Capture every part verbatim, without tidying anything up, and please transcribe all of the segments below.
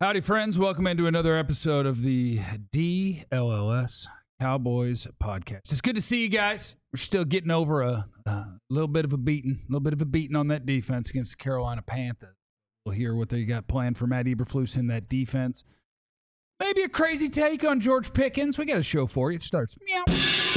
Howdy, friends. Welcome into another episode of the D L L S Cowboys podcast. It's good to see you guys. We're still getting over a, a little bit of a beating, a little bit of a beating on that defense against the Carolina Panthers. We'll hear what they got planned for Matt Eberflus in that defense. Maybe a crazy take on George Pickens. We got a show for you. It starts meow.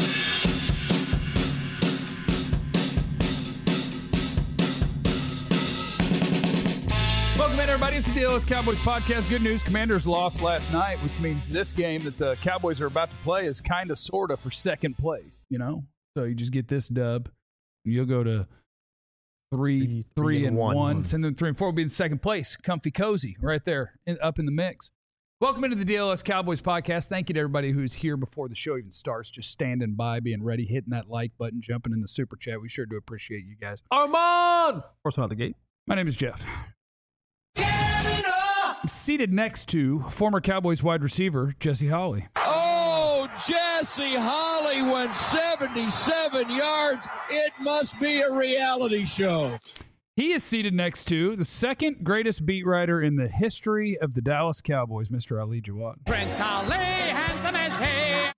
Welcome in, everybody. It's the D L L S Cowboys podcast. Good news, Commanders lost last night, which means this game that the Cowboys are about to play is kind of, sort of for second place, you know? So you just get this dub, and you'll go to three, three, three, three and, and one. one. And then three and four will be in second place. Comfy, cozy, right there, in, up in the mix. Welcome into the D L L S Cowboys podcast. Thank you to everybody who's here before the show even starts, just standing by, being ready, hitting that like button, jumping in the super chat. We sure do appreciate you guys. Armand! First one out the gate. My name is Jeff. I'm seated next to former Cowboys wide receiver Jesse Holley. Oh, Jesse Holley went seventy-seven yards. It must be a reality show. He is seated next to the second greatest beat writer in the history of the Dallas Cowboys, Mister Ali Jawad. Prince Ali, handsome as he.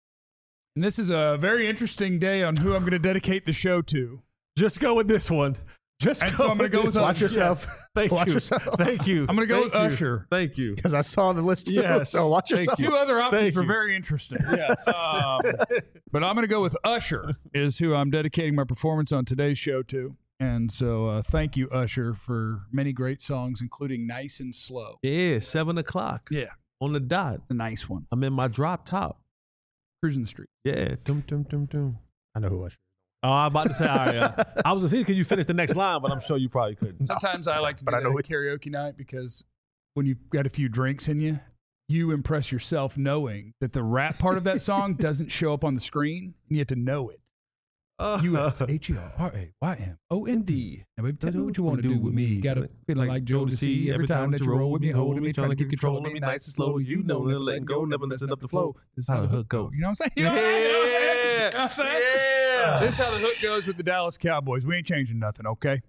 And this is a very interesting day on who I'm going to dedicate the show to. Just go with this one. Just and go so I'm going to go with Watch yourself. Yes. Thank Watch you. yourself. Thank you. I'm going to go Thank with you. Usher. Thank you. Because I saw the list too. Yes. So watch Thank yourself. you. Two other options Thank were you. very interesting. Yes. Um, but I'm going to go with Usher is who I'm dedicating my performance on today's show to. And so uh, thank you, Usher, for many great songs, including Nice and Slow. Yeah, seven o'clock. Yeah. On the dot. It's a nice one. I'm in my drop top. Cruising the street. Yeah. Dum, dum, dum, dum. I know who I should. Oh, I'm about to say, all right. Uh, I was going to see, could you finish the next line, but I'm sure you probably couldn't. Sometimes I like to do But I that know at it- karaoke night because when you've got a few drinks in you, you impress yourself knowing that the rap part of that song doesn't show up on the screen, and you have to know it. Uh, U S H E R A Y M O N D. Now, baby, tell me what you want to do with me. You got to feel like Joe to see every time that you roll with me, holding me, trying to keep control of me, nice and slow. You know, never letting go, never listen up the flow. This is how the hook goes. You know what I'm saying? You know what I'm saying? You know what I'm saying? Yeah. This is how the hook goes with the Dallas Cowboys. We ain't changing nothing, okay?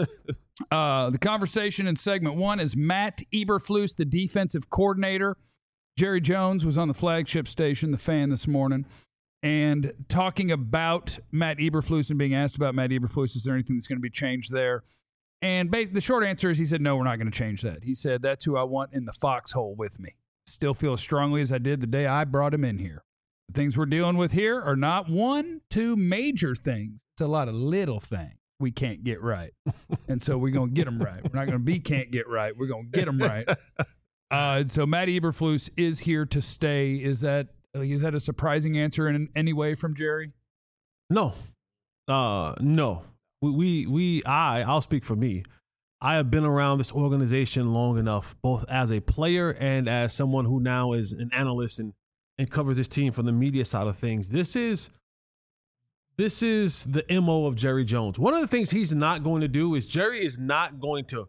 uh, the conversation in segment one is Matt Eberflus, the defensive coordinator. Jerry Jones was on the flagship station, The Fan, this morning, and talking about Matt Eberflus and being asked about Matt Eberflus. Is there anything that's going to be changed there? And basically, the short answer is he said, no, we're not going to change that. He said, that's who I want in the foxhole with me. Still feel as strongly as I did the day I brought him in here. The things we're dealing with here are not one, two major things. It's a lot of little things we can't get right. And so we're going to get them right. We're not going to be can't get right. We're going to get them right. Uh, and so Matt Eberflus is here to stay. Is that is that a surprising answer in any way from Jerry? No. Uh, no. We, we, we, I, I'll speak for me. I have been around this organization long enough, both as a player and as someone who now is an analyst and and covers his team from the media side of things. This is this is the M O of Jerry Jones. One of the things he's not going to do is Jerry is not going to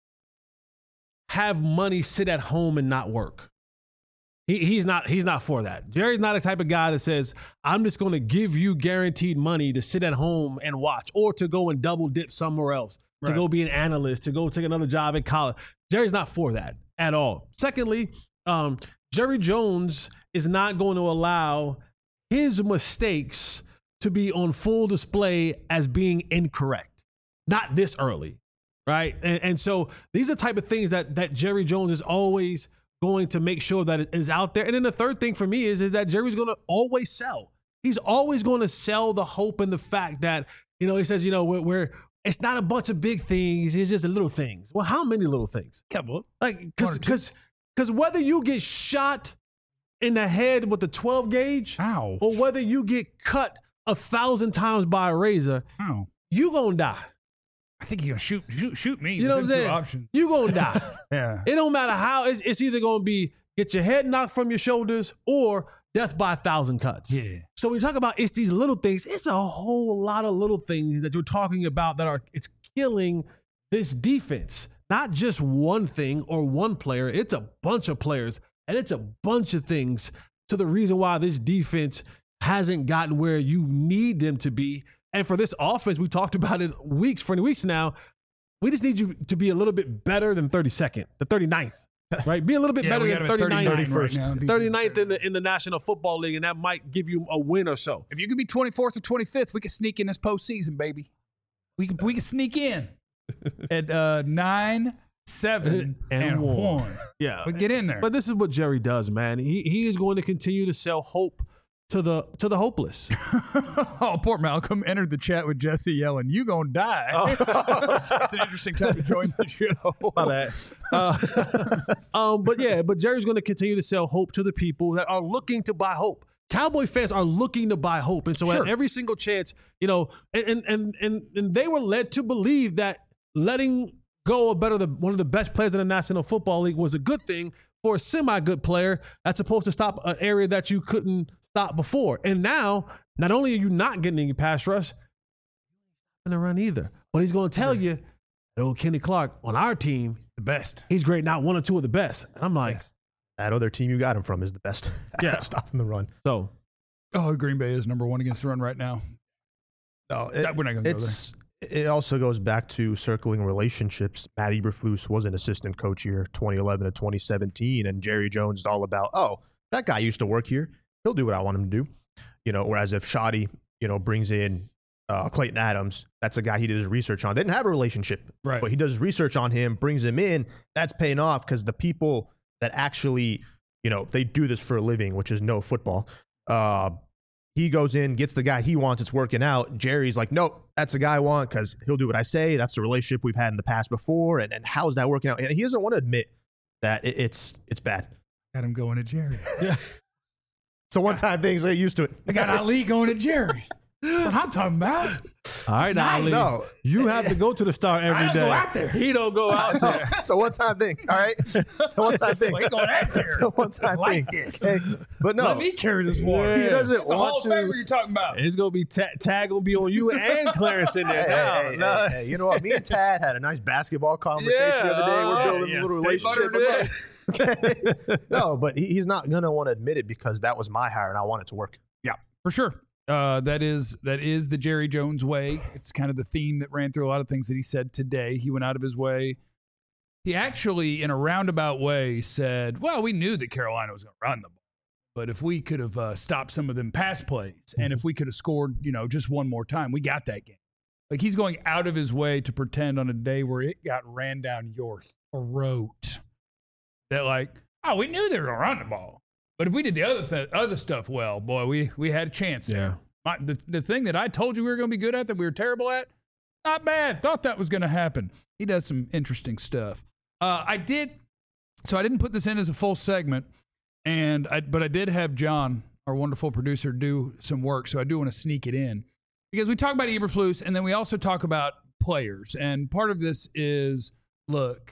have money sit at home and not work. He, he's not he's not for that. Jerry's not the type of guy that says, I'm just going to give you guaranteed money to sit at home and watch or to go and double dip somewhere else, Right. to go be an analyst, to go take another job at college. Jerry's not for that at all. Secondly, um, Jerry Jones is not going to allow his mistakes to be on full display as being incorrect. Not this early, right? And, and so these are the type of things that that Jerry Jones is always going to make sure that it is out there. And then the third thing for me is, is that Jerry's going to always sell. He's always going to sell the hope and the fact that, you know, he says, you know, we're, we're it's not a bunch of big things. It's just little things. Well, how many little things? Couple. Like, because because because whether you get shot in the head with a twelve gauge, Ow. or whether you get cut a thousand times by a razor, Ow. you gonna die. I think you're going to shoot, shoot, shoot me. You know what I'm Them two saying? Options. You gonna die. Yeah. It don't matter how. It's, it's either gonna be get your head knocked from your shoulders or death by a thousand cuts. Yeah. So when you talk about it's these little things, it's a whole lot of little things that you're talking about that are it's killing this defense. Not just one thing or one player. It's a bunch of players and it's a bunch of things to the reason why this defense hasn't gotten where you need them to be. And for this offense, we talked about it weeks for weeks now. We just need you to be a little bit better than thirty-second, the thirty-ninth. right? Be a little bit Yeah, better we got than him at thirty-ninth, thirty-nine right now. thirty-ninth in the in the National Football League, and that might give you a win or so. If you could be twenty-fourth or twenty-fifth, we could sneak in this postseason, baby. We could we could sneak in at uh, nine, seven, and, And one. one. Yeah, We get in there. But this is what Jerry does, man. He he is going to continue to sell hope to the to the hopeless. Oh, poor Malcolm entered the chat with Jesse yelling, "You gonna die." Oh. It's an interesting time to join the show. My bad. Uh, um, but yeah, but Jerry's going to continue to sell hope to the people that are looking to buy hope. Cowboy fans are looking to buy hope, and so Sure. at every single chance, you know, and and and and they were led to believe that letting go of better the one of the best players in the National Football League was a good thing for a semi-good player that's supposed to stop an area that you couldn't stop before. And now, not only are you not getting any pass rush, you're not going to run either. But he's going to tell you, old Kenny Clark on our team, The best. he's great, not one or two of the best. And I'm like, Yes. That other team you got him from is the best Yeah. at stopping the run. so Oh, Green Bay is number one against the run right now. No, That- we're not gonna go it's, It also goes back to circling relationships. Matt Eberflus was an assistant coach here, twenty eleven to twenty seventeen, and Jerry Jones is all about, oh, that guy used to work here. He'll do what I want him to do. You know, whereas if Shoddy, you know, brings in uh, Clayton Adams, that's a guy he did his research on. They didn't have a relationship, Right. but he does research on him, brings him in. That's paying off because the people that actually, you know, they do this for a living, which is no football. Uh, he goes in, gets the guy he wants, it's working out. Jerry's like, nope, that's the guy I want because he'll do what I say. That's the relationship we've had in the past before. And, and how's that working out? And he doesn't want to admit that it, it's it's bad. Got him going to Jerry. It's a one-time thing, so get used to it. I got Ali going to Jerry. That's what I'm talking about. all right, now, nice. Ali, No. you have to go to the Star every day. I don't go out there. He don't go out there. It's a one-time thing, all right? It's a one-time thing. Well, he going out there. It's a one-time I like thing. this. Hey, but no, Let me carry this water. he doesn't That's a Hall want of to. Famer you're talking about. It's gonna be ta- tag gonna be on you and Clarence in there. Hey, now. hey, hey, No. hey, hey, you know what? Me and Tad had a nice basketball conversation Yeah, the other day. We're uh, building yeah, a little stay relationship. buttered Okay. No, but he, he's not going to want to admit it because that was my hire and I want it to work. Yeah, for sure. Uh, that is that is the Jerry Jones way. It's kind of the theme that ran through a lot of things that he said today. He went out of his way. He actually, in a roundabout way, said, well, we knew that Carolina was going to run the ball. But if we could have uh, stopped some of them pass plays and if we could have scored, you know, just one more time, we got that game. Like he's going out of his way to pretend on a day where it got ran down your throat that like, oh, we knew they were going to run the ball. But if we did the other th- other stuff well, boy, we we had a chance there. Yeah. My, the, the thing that I told you we were going to be good at that we were terrible at, not bad. Thought that was going to happen. He does some interesting stuff. Uh, I did, so I didn't put this in as a full segment, and I, but I did have John, our wonderful producer, do some work, so I do want to sneak it in. Because we talk about Eberflus, and then we also talk about players. And part of this is, look,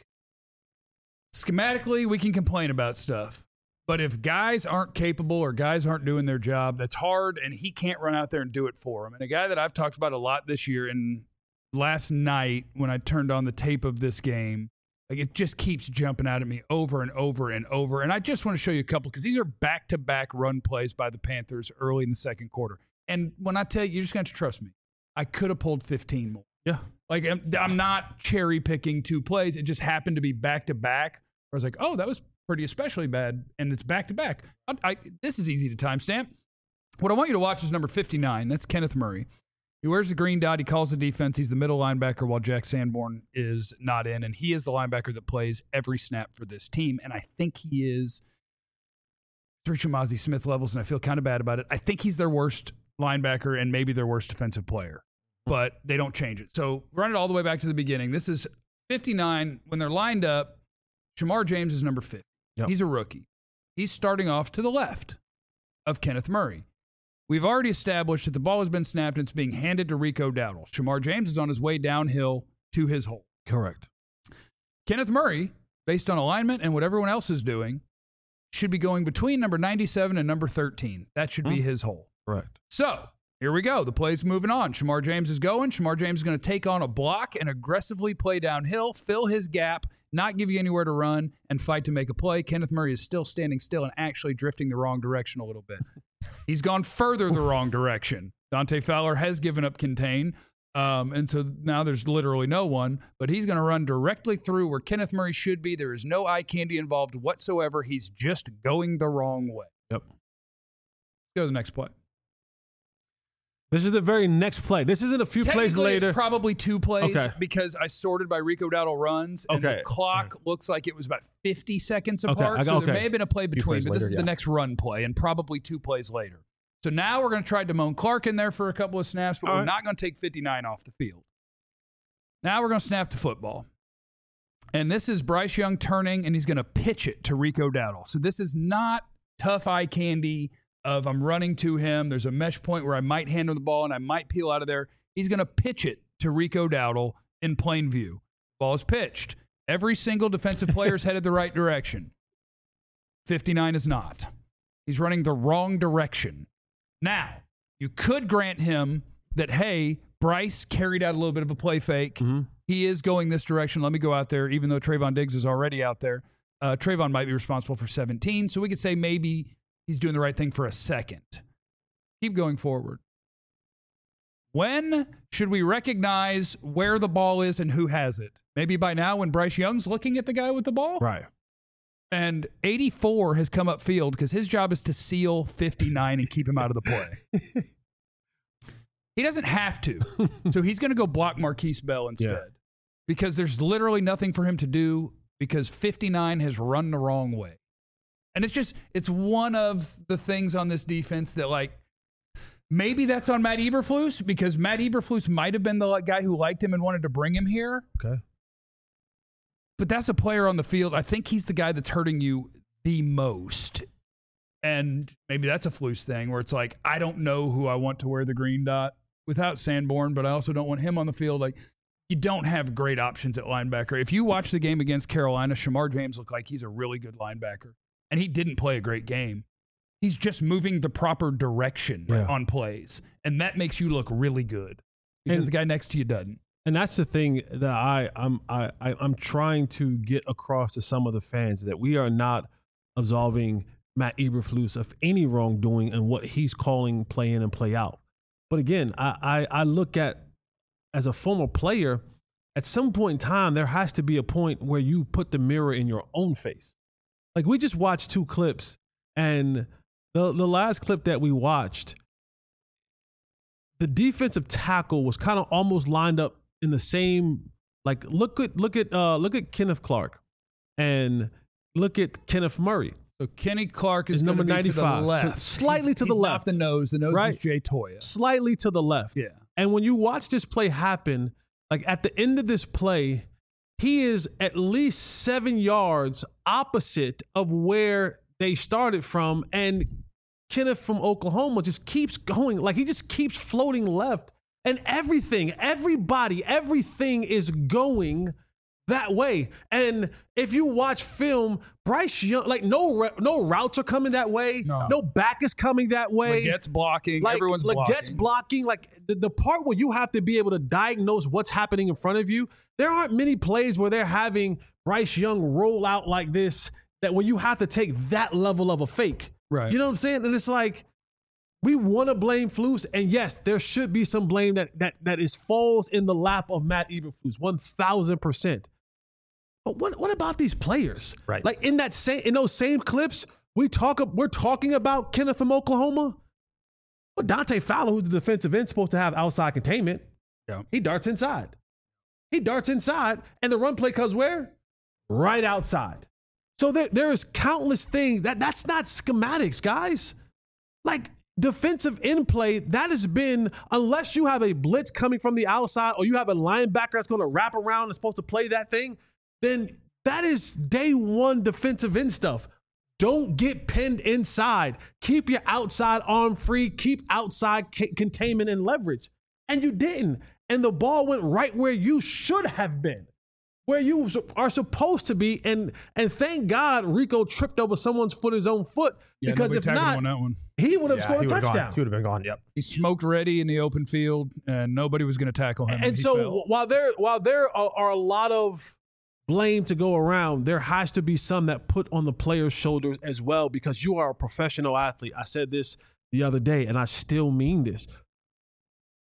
schematically, we can complain about stuff. But if guys aren't capable or guys aren't doing their job, that's hard, and he can't run out there and do it for them. And a guy that I've talked about a lot this year, and last night when I turned on the tape of this game, like it just keeps jumping out at me over and over and over. And I just want to show you a couple because these are back-to-back run plays by the Panthers early in the second quarter. And when I tell you, you're just going to trust me. I could have pulled fifteen more. Yeah. Like I'm, I'm not cherry-picking two plays. It just happened to be back-to-back. I was like, oh, that was pretty especially bad, and it's back-to-back. I, I, this is easy to timestamp. What I want you to watch is number fifty-nine. That's Kenneth Murray. He wears the green dot. He calls the defense. He's the middle linebacker while Jack Sanborn is not in, and he is the linebacker that plays every snap for this team, and I think he is reaching Mozzie Smith levels, and I feel kind of bad about it. I think he's their worst linebacker and maybe their worst defensive player, but they don't change it. So run it all the way back to the beginning. This is fifty-nine. When they're lined up, Shamar James is number fifty. Yep. He's a rookie. He's starting off to the left of Kenneth Murray. We've already established that the ball has been snapped and it's being handed to Rico Dowdle. Shamar James is on his way downhill to his hole. Correct. Kenneth Murray, based on alignment and what everyone else is doing, should be going between number ninety-seven and number thirteen. That should be his hole. Correct. So here we go. The play's moving on. Shamar James is going. Shamar James is going to take on a block and aggressively play downhill, fill his gap, not give you anywhere to run, and fight to make a play. Kenneth Murray is still standing still and actually drifting the wrong direction a little bit. He's gone further the wrong direction. Dante Fowler has given up contain. Um, and so now there's literally no one, but he's going to run directly through where Kenneth Murray should be. There is no eye candy involved whatsoever. He's just going the wrong way. Yep. Go to the next play. This is the very next play. This isn't a few plays later. It's probably two plays okay. because I sorted by Rico Dowdle runs, and okay. the clock okay. looks like it was about fifty seconds okay. apart. Got, so okay. there may have been a play between, but later, this is yeah. the next run play, and probably two plays later. So now we're going to try Damone Clark in there for a couple of snaps, but All we're right. not going to take fifty-nine off the field. Now we're going to snap the football. And this is Bryce Young turning, and he's going to pitch it to Rico Dowdle. So this is not tough eye candy of I'm running to him. There's a mesh point where I might hand him the ball and I might peel out of there. He's going to pitch it to Rico Dowdle in plain view. Ball is pitched. Every single defensive player is headed the right direction. fifty-nine is not. He's running the wrong direction. Now, you could grant him that, hey, Bryce carried out a little bit of a play fake. Mm-hmm. He is going this direction. Let me go out there, even though Trayvon Diggs is already out there. Uh, Trayvon might be responsible for seventeen, so we could say maybe he's doing the right thing for a second. Keep going forward. When should we recognize where the ball is and who has it? Maybe by now when Bryce Young's looking at the guy with the ball? Right. And eighty-four has come upfield because his job is to seal fifty-nine and keep him out of the play. He doesn't have to. So he's going to go block Marquise Bell instead. Yeah. Because there's literally nothing for him to do because fifty-nine has run the wrong way. And it's just, it's one of the things on this defense that, like, maybe that's on Matt Eberflus because Matt Eberflus might have been the guy who liked him and wanted to bring him here. Okay. But that's a player on the field. I think he's the guy that's hurting you the most. And maybe that's a Flus thing where it's like, I don't know who I want to wear the green dot without Sanborn, but I also don't want him on the field. Like, you don't have great options at linebacker. If you watch the game against Carolina, Shamar James looked like he's a really good linebacker. And he didn't play a great game. He's just moving the proper direction yeah. on plays. And that makes you look really good because and, the guy next to you doesn't. And that's the thing that I, I'm I, I, I'm trying to get across to some of the fans, that we are not absolving Matt Eberflus of any wrongdoing in what he's calling play in and play out. But again, I, I, I look at, as a former player, at some point in time, there has to be a point where you put the mirror in your own face. Like, we just watched two clips, and the, the last clip that we watched, the defensive tackle was kind of almost lined up in the same, like, look at look at uh, look at Kenneth Clark and look at Kenneth Murray. So Kenny Clark is, is number ninety-five, to the left. To, slightly he's, to the he's left. Not the nose. The nose right? is Jay Toya. Slightly to the left. Yeah. And when you watch this play happen, like at the end of this play, he is at least seven yards opposite of where they started from. And Kenneth from Oklahoma just keeps going. Like, he just keeps floating left. And everything, everybody, everything is going that way. And if you watch film, Bryce Young, like no no routes are coming that way. No, no back is coming that way. Legette's blocking. Like, Everyone's Legette's blocking. blocking. Like the, the part where you have to be able to diagnose what's happening in front of you. There aren't many plays where they're having Bryce Young roll out like this, that where you have to take that level of a fake. Right. You know what I'm saying? And it's like, we want to blame Flus, and yes, there should be some blame that that that is falls in the lap of Matt Eberflus, one thousand percent. But what what about these players? Right. Like in that same in those same clips, we talk we're talking about Kenneth from Oklahoma. Well, Dante Fowler, who's the defensive end, supposed to have outside containment. Yeah. He darts inside. He darts inside, and the run play comes where? Right outside. So there there is countless things that that's not schematics, guys. Like, defensive end play, that has been, unless you have a blitz coming from the outside or you have a linebacker that's going to wrap around and supposed to play that thing, then that is day one defensive end stuff. Don't get pinned inside. Keep your outside arm free. Keep outside c- containment and leverage. And you didn't. And the ball went right where you should have been, where you are supposed to be. And and thank God Rico tripped over someone's foot, his own foot. Yeah, because if tackled not, him on that one. he would have Yeah, scored he a would've touchdown. gone. He would have been gone. Yep. He smoked ready in the open field, and nobody was going to tackle him. And, and he so fell. while there while there are, are a lot of blame to go around, there has to be some that put on the player's shoulders as well, because you are a professional athlete. I said this the other day, and I still mean this.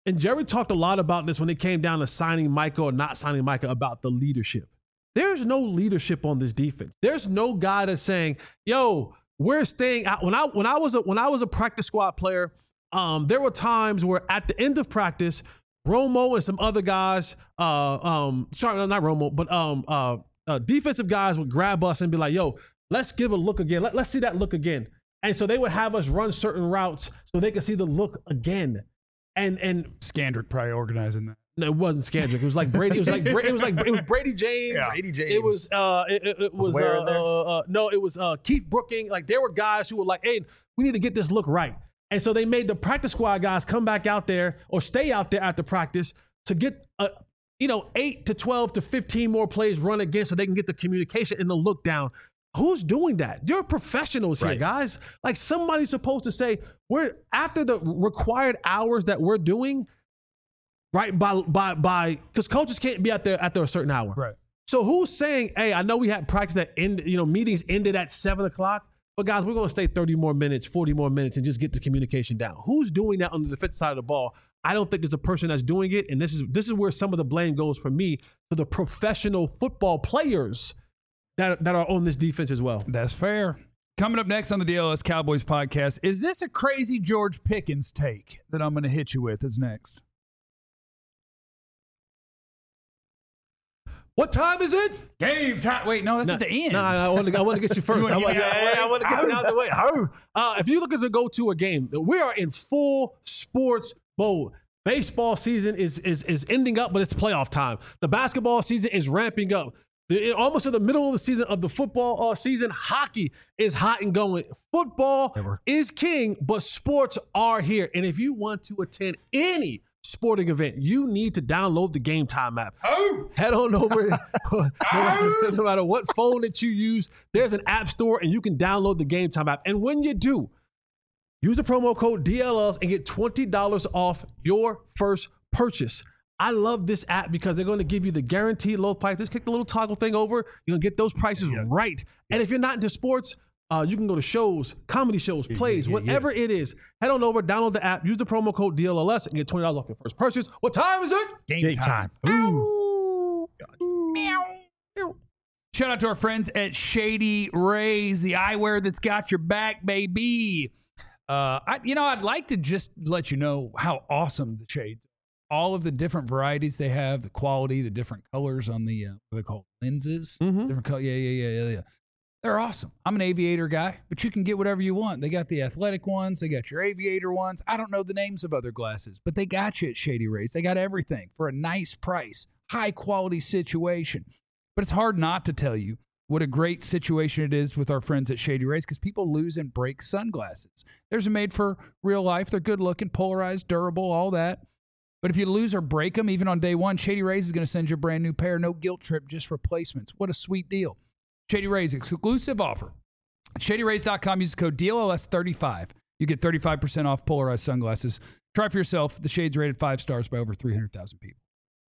and Jerry talked a lot about this when it came down to signing Micah or not signing Micah, about the leadership. There's no leadership on this defense. There's no guy that's saying, yo, we're staying out. When I when I was a when I was a practice squad player, um, there were times where at the end of practice, Romo and some other guys, uh, um, sorry, not Romo, but um, uh, uh, defensive guys would grab us and be like, yo, let's give a look again. Let, let's see that look again. And so they would have us run certain routes so they could see the look again. And and Scandrick probably organizing that. No, it wasn't Scandrick. It was like Brady. It was like Bra- it was like it was Brady James. Yeah. Brady James. It was uh it, it, it was, Was Ware uh, in there? uh, uh no it was uh Keith Brooking. Like there were guys who were like, hey, we need to get this look right. And so they made the practice squad guys come back out there or stay out there after practice to get uh you know eight to twelve to fifteen more plays run again so they can get the communication and the look down. Who's doing that? You're professionals here, Right. guys. Like somebody's supposed to say, we're after the required hours that we're doing, right? By by by because coaches can't be out there after a certain hour. Right. So who's saying, hey, I know we had practice that end, you know, meetings ended at seven o'clock, but guys, we're gonna stay thirty more minutes, forty more minutes, and just get the communication down. Who's doing that on the defensive side of the ball? I don't think there's a person that's doing it, and this is this is where some of the blame goes for me to the professional football players that, that are on this defense as well. That's fair. Coming up next on the D L S Cowboys podcast, is this a crazy George Pickens take that I'm going to hit you with? Is next. What time is it? Game time. Wait, no, that's at the end. No, I want to I want to get you first. You wanna I want get me out of the way? I want to get you out of the way. Uh, if you look at the go to a game, we are in full sports mode. Baseball season is is is ending up, but it's playoff time. The basketball season is ramping up. The, almost in the middle of the season of the football uh, season, hockey is hot and going. Football Never. is king, but sports are here. And if you want to attend any sporting event, you need to download the Game Time app. Oh! Head on over. no, matter, no matter what phone that you use, there's an app store and you can download the Game Time app. And when you do, use the promo code D L S and get twenty dollars off your first purchase. I love this app because they're going to give you the guaranteed low price. Just click the little toggle thing over. You're going to get those prices Yeah. right. And if you're not into sports, uh, you can go to shows, comedy shows, plays, yeah, yeah, whatever it is. Head on over, download the app, use the promo code D L S and get twenty dollars off your first purchase. What time is it? Game, Game time. time. Ooh. Shout out to our friends at Shady Rays, the eyewear that's got your back, baby. Uh, I, you know, I'd like to just let you know how awesome the shades are. All of the different varieties they have, the quality, the different colors on the, uh, what are they called? Lenses? Mhm. Different color. Yeah, yeah, yeah, yeah, yeah. They're awesome. I'm an aviator guy, but you can get whatever you want. They got the athletic ones. They got your aviator ones. I don't know the names of other glasses, but they got you at Shady Rays. They got everything for a nice price, high quality situation. But it's hard not to tell you what a great situation it is with our friends at Shady Rays because people lose and break sunglasses. There's a made for real life. They're good looking, polarized, durable, all that. But if you lose or break them, even on day one, Shady Rays is going to send you a brand new pair. No guilt trip, just replacements. What a sweet deal. Shady Rays, exclusive offer. At shady rays dot com, use the code D L S thirty-five. You get thirty-five percent off polarized sunglasses. Try for yourself. The Shade's rated five stars by over three hundred thousand people.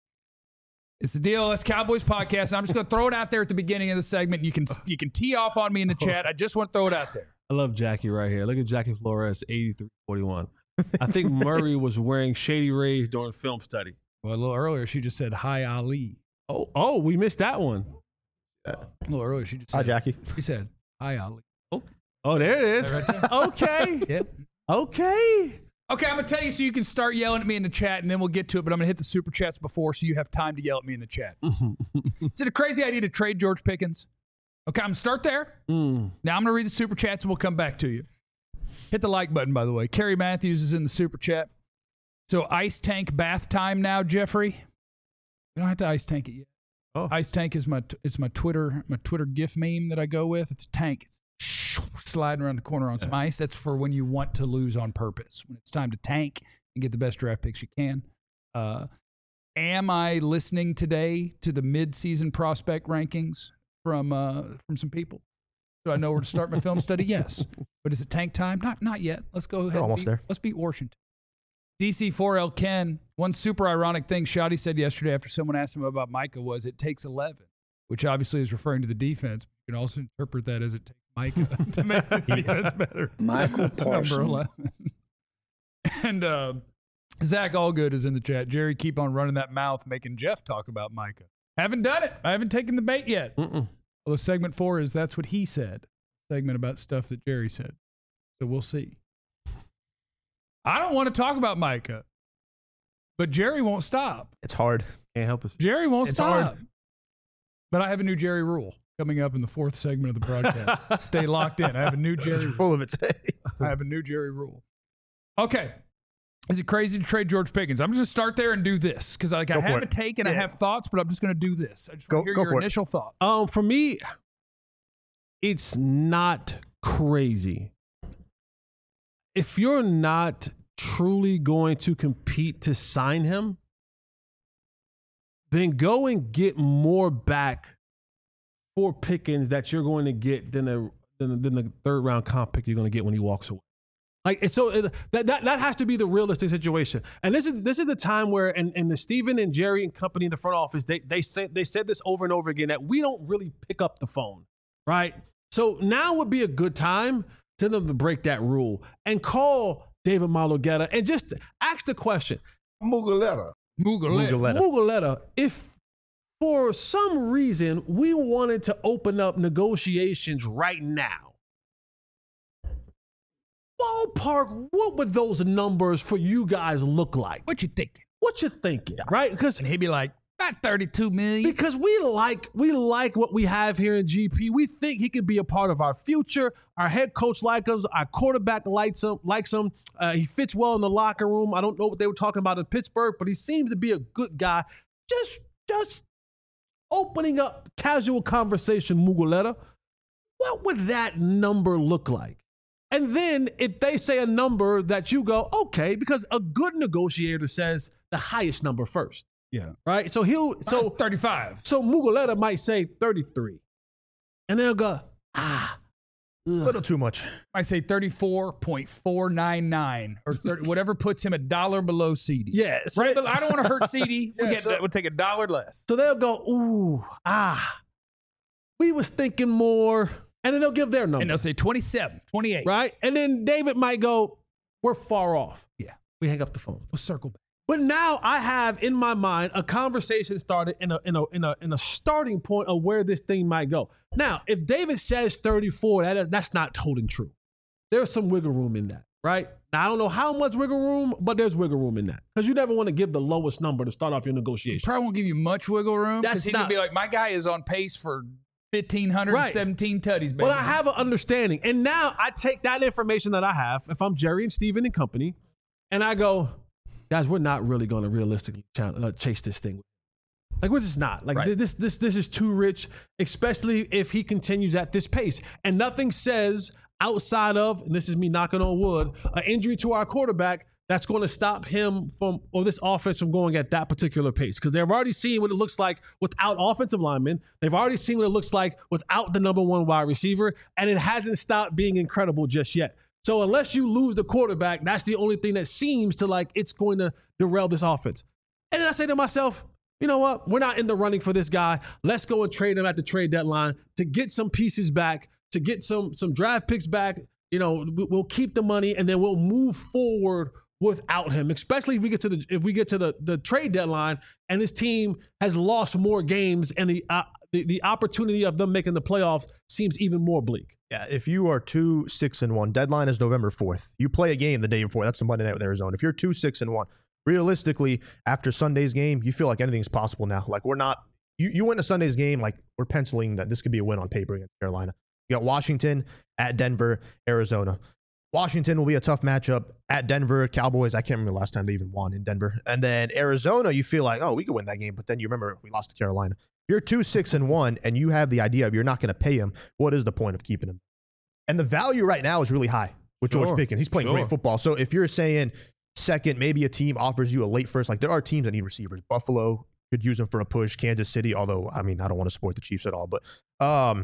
It's the D L S Cowboys podcast. I'm just going to throw it out there at the beginning of the segment. You can you can tee off on me in the chat. I just want to throw it out there. I love Jackie right here. Look at Jackie Flores, eighty-three forty-one. I think Murray was wearing Shady Rays during film study. Well, a little earlier, she just said, hi, Ali. Oh, oh, we missed that one. A little earlier, she just said, Hi, Jackie. She said, hi, Ali. Oh, oh there it is. Right there. Okay. Yep. Okay. Okay, I'm going to tell you so you can start yelling at me in the chat, and then we'll get to it, but I'm going to hit the super chats before so you have time to yell at me in the chat. Is it a crazy idea to trade George Pickens? Okay, I'm going to start there. Mm. Now I'm going to read the super chats, and we'll come back to you. Hit the like button, by the way. Kerry Matthews is in the super chat. So ice tank bath time now, Jeffrey. We don't have to ice tank it yet. Oh. Ice tank is my it's my Twitter my Twitter GIF meme that I go with. It's a tank. It's sliding around the corner on some ice. That's for when you want to lose on purpose. When it's time to tank and get the best draft picks you can. Uh, am I listening today to the mid-season prospect rankings from uh, from some people? So I know where to start my film study? Yes. But is it tank time? Not not yet. Let's go ahead. We're almost beat, there. Let's beat Washington. D C four L Ken, one super ironic thing Shoddy said yesterday after someone asked him about Micah was it takes eleven, which obviously is referring to the defense. You can also interpret that as it takes Micah to make the defense better. Michael Parsons. Number eleven. And uh, Zach Allgood is in the chat. Jerry, keep on running that mouth, making Jeff talk about Micah. Haven't done it. I haven't taken the bait yet. Mm-mm. Well, segment four is That's What He Said. Segment about stuff that Jerry said. So we'll see. I don't want to talk about Micah, but Jerry won't stop. It's hard. Can't help us. Jerry won't It's stop. hard. But I have a new Jerry rule coming up in the fourth segment of the broadcast. Stay locked in. I have a new Jerry rule. Full of it today. I have a new Jerry rule. Okay. Is it crazy to trade George Pickens? I'm just going to start there and do this because like, I Go for have it. a take and I Yeah. have thoughts, but I'm just going to do this. I just Go- want to hear go your for it. initial thoughts. Um, for me, it's not crazy. If you're not truly going to compete to sign him, then go and get more back for Pickens that you're going to get than the than, than the third round comp pick you're going to get when he walks away. Like it's so it, that, that that has to be the realistic situation. And this is this is the time where and, and the Stephen and Jerry and company in the front office, they they said they said this over and over again that we don't really pick up the phone, right? So now would be a good time to them to break that rule and call David Malogetta and just ask the question. Mugoletta. Mugoletta. Mugoletta. Mugoletta, if for some reason we wanted to open up negotiations right now, ballpark, what would those numbers for you guys look like? What you thinking? What you thinking, right? Because And he'd be like, about thirty-two million. because we like we like what we have here in G P. We think he could be a part of our future. Our head coach likes him. Our quarterback likes him. Likes him. Uh, he fits well in the locker room. I don't know what they were talking about in Pittsburgh, but he seems to be a good guy. Just just opening up casual conversation, Mugoletta. What would that number look like? And then if they say a number that you go, okay, because a good negotiator says the highest number first. Yeah. Right? So he'll so thirty-five. so Mugoletta might say thirty-three. And they'll go, ah. A little too much. I say thirty-four point four nine nine or thirty, whatever puts him a dollar below C D. Yeah. So, Right? But I don't want to hurt C D. We'll, Yeah, get so- that. We'll take a dollar less. so they'll go, ooh, ah. We was thinking more. And then they'll give their number. And they'll say twenty-seven, twenty-eight. Right? And then David might go, we're far off. Yeah. We hang up the phone. We'll circle back. But now I have in my mind a conversation started in a in a in a in a starting point of where this thing might go. Now, if David says thirty-four, that is, that's not holding true. There's some wiggle room in that, right? Now, I don't know how much wiggle room, but there's wiggle room in that because you never want to give the lowest number to start off your negotiation. Probably won't give you much wiggle room. That's Because he's not- going to be like, my guy is on pace for fifteen seventeen tutties, baby. But I have an understanding, and now I take that information that I have, if I'm Jerry and Steven and company, and I go, guys, we're not really going to realistically ch- uh, chase this thing. Like we're just not. Like Right. this, this, this is too rich, especially if he continues at this pace. And nothing says outside of, and this is me knocking on wood, an injury to our quarterback that's going to stop him from, or this offense from going at that particular pace. Because they've already seen what it looks like without offensive linemen. They've already seen what it looks like without the number one wide receiver. And it hasn't stopped being incredible just yet. So unless you lose the quarterback, that's the only thing that seems to like it's going to derail this offense. And then I say to myself, you know what? We're not in the running for this guy. Let's go and trade him at the trade deadline to get some pieces back, to get some some draft picks back. You know, we- we'll keep the money and then we'll move forward without him. Especially if we get to the if we get to the the trade deadline and this team has lost more games and the uh, the, the opportunity of them making the playoffs seems even more bleak. Yeah, if you are two six and one, deadline is November fourth. You play a game the day before. That's the Monday night with Arizona. If you're two six and one, realistically, after Sunday's game, you feel like anything's possible now. Like we're not. You you win a Sunday's game, like we're penciling that this could be a win on paper against Carolina. You got Washington at Denver, Arizona. Washington will be a tough matchup at Denver. Cowboys, I can't remember the last time they even won in Denver. And then Arizona, you feel like, oh, we could win that game. But then you remember we lost to Carolina. You're two six and one, and you have the idea of you're not going to pay him. What is the point of keeping him? And the value right now is really high with Sure. George Pickens. He's playing Sure. great football. So if you're saying second, maybe a team offers you a late first, like there are teams that need receivers. Buffalo could use him for a push. Kansas City, although, I mean, I don't want to support the Chiefs at all. But um,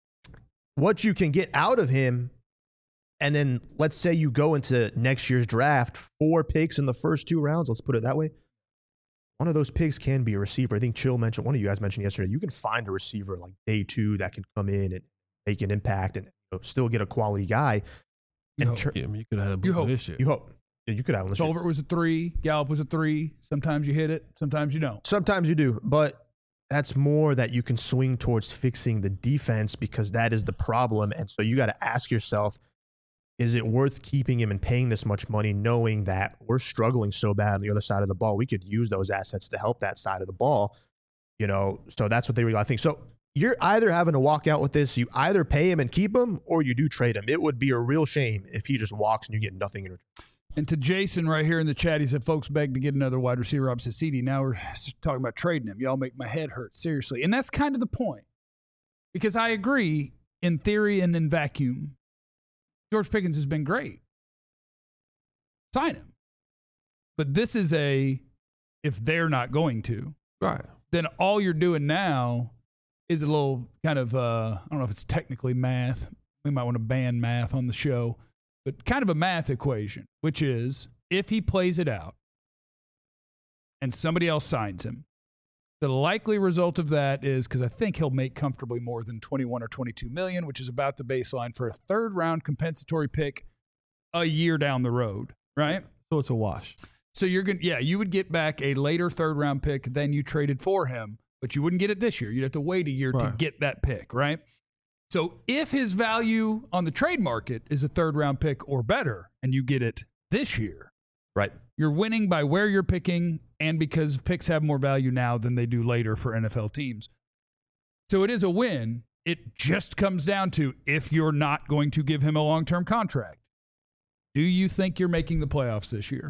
what you can get out of him, and then let's say you go into next year's draft, four picks in the first two rounds, let's put it that way. One of those picks can be a receiver. I think Chill mentioned, one of you guys mentioned yesterday, you can find a receiver like day two that can come in and make an impact and you know, still get a quality guy. You And hope. tur- Yeah, I mean, you could have had a You boot hope. this year. you hope. Yeah, you could have him this year. Tolbert was a three. Gallup was a three. Sometimes you hit it. Sometimes you don't. Sometimes you do, but that's more that you can swing towards fixing the defense because that is the problem. And so you got to ask yourself, is it worth keeping him and paying this much money knowing that we're struggling so bad on the other side of the ball? We could use those assets to help that side of the ball. You know, so that's what they really, I think. So you're either having to walk out with this, you either pay him and keep him, or you do trade him. It would be a real shame if he just walks and you get nothing in return. And to Jason right here in the chat, he said, folks beg to get another wide receiver opposite C D. Now we're talking about trading him. Y'all make my head hurt, seriously. And that's kind of the point. Because I agree, in theory and in vacuum, George Pickens has been great. Sign him. But this is a, if they're not going to, right, then all you're doing now is a little kind of, uh, I don't know if it's technically math. We might want to ban math on the show. But kind of a math equation, which is if he plays it out and somebody else signs him, the likely result of that is, because I think he'll make comfortably more than twenty-one or twenty-two million, which is about the baseline for a third round compensatory pick a year down the road, right? So it's a wash. So you're going to, yeah, you would get back a later third round pick than you traded for him, but you wouldn't get it this year. You'd have to wait a year right. to get that pick, right? So if his value on the trade market is a third round pick or better, and you get it this year, right, you're winning by where you're picking and because picks have more value now than they do later for N F L teams. So it is a win. It just comes down to if you're not going to give him a long-term contract. Do you think you're making the playoffs this year?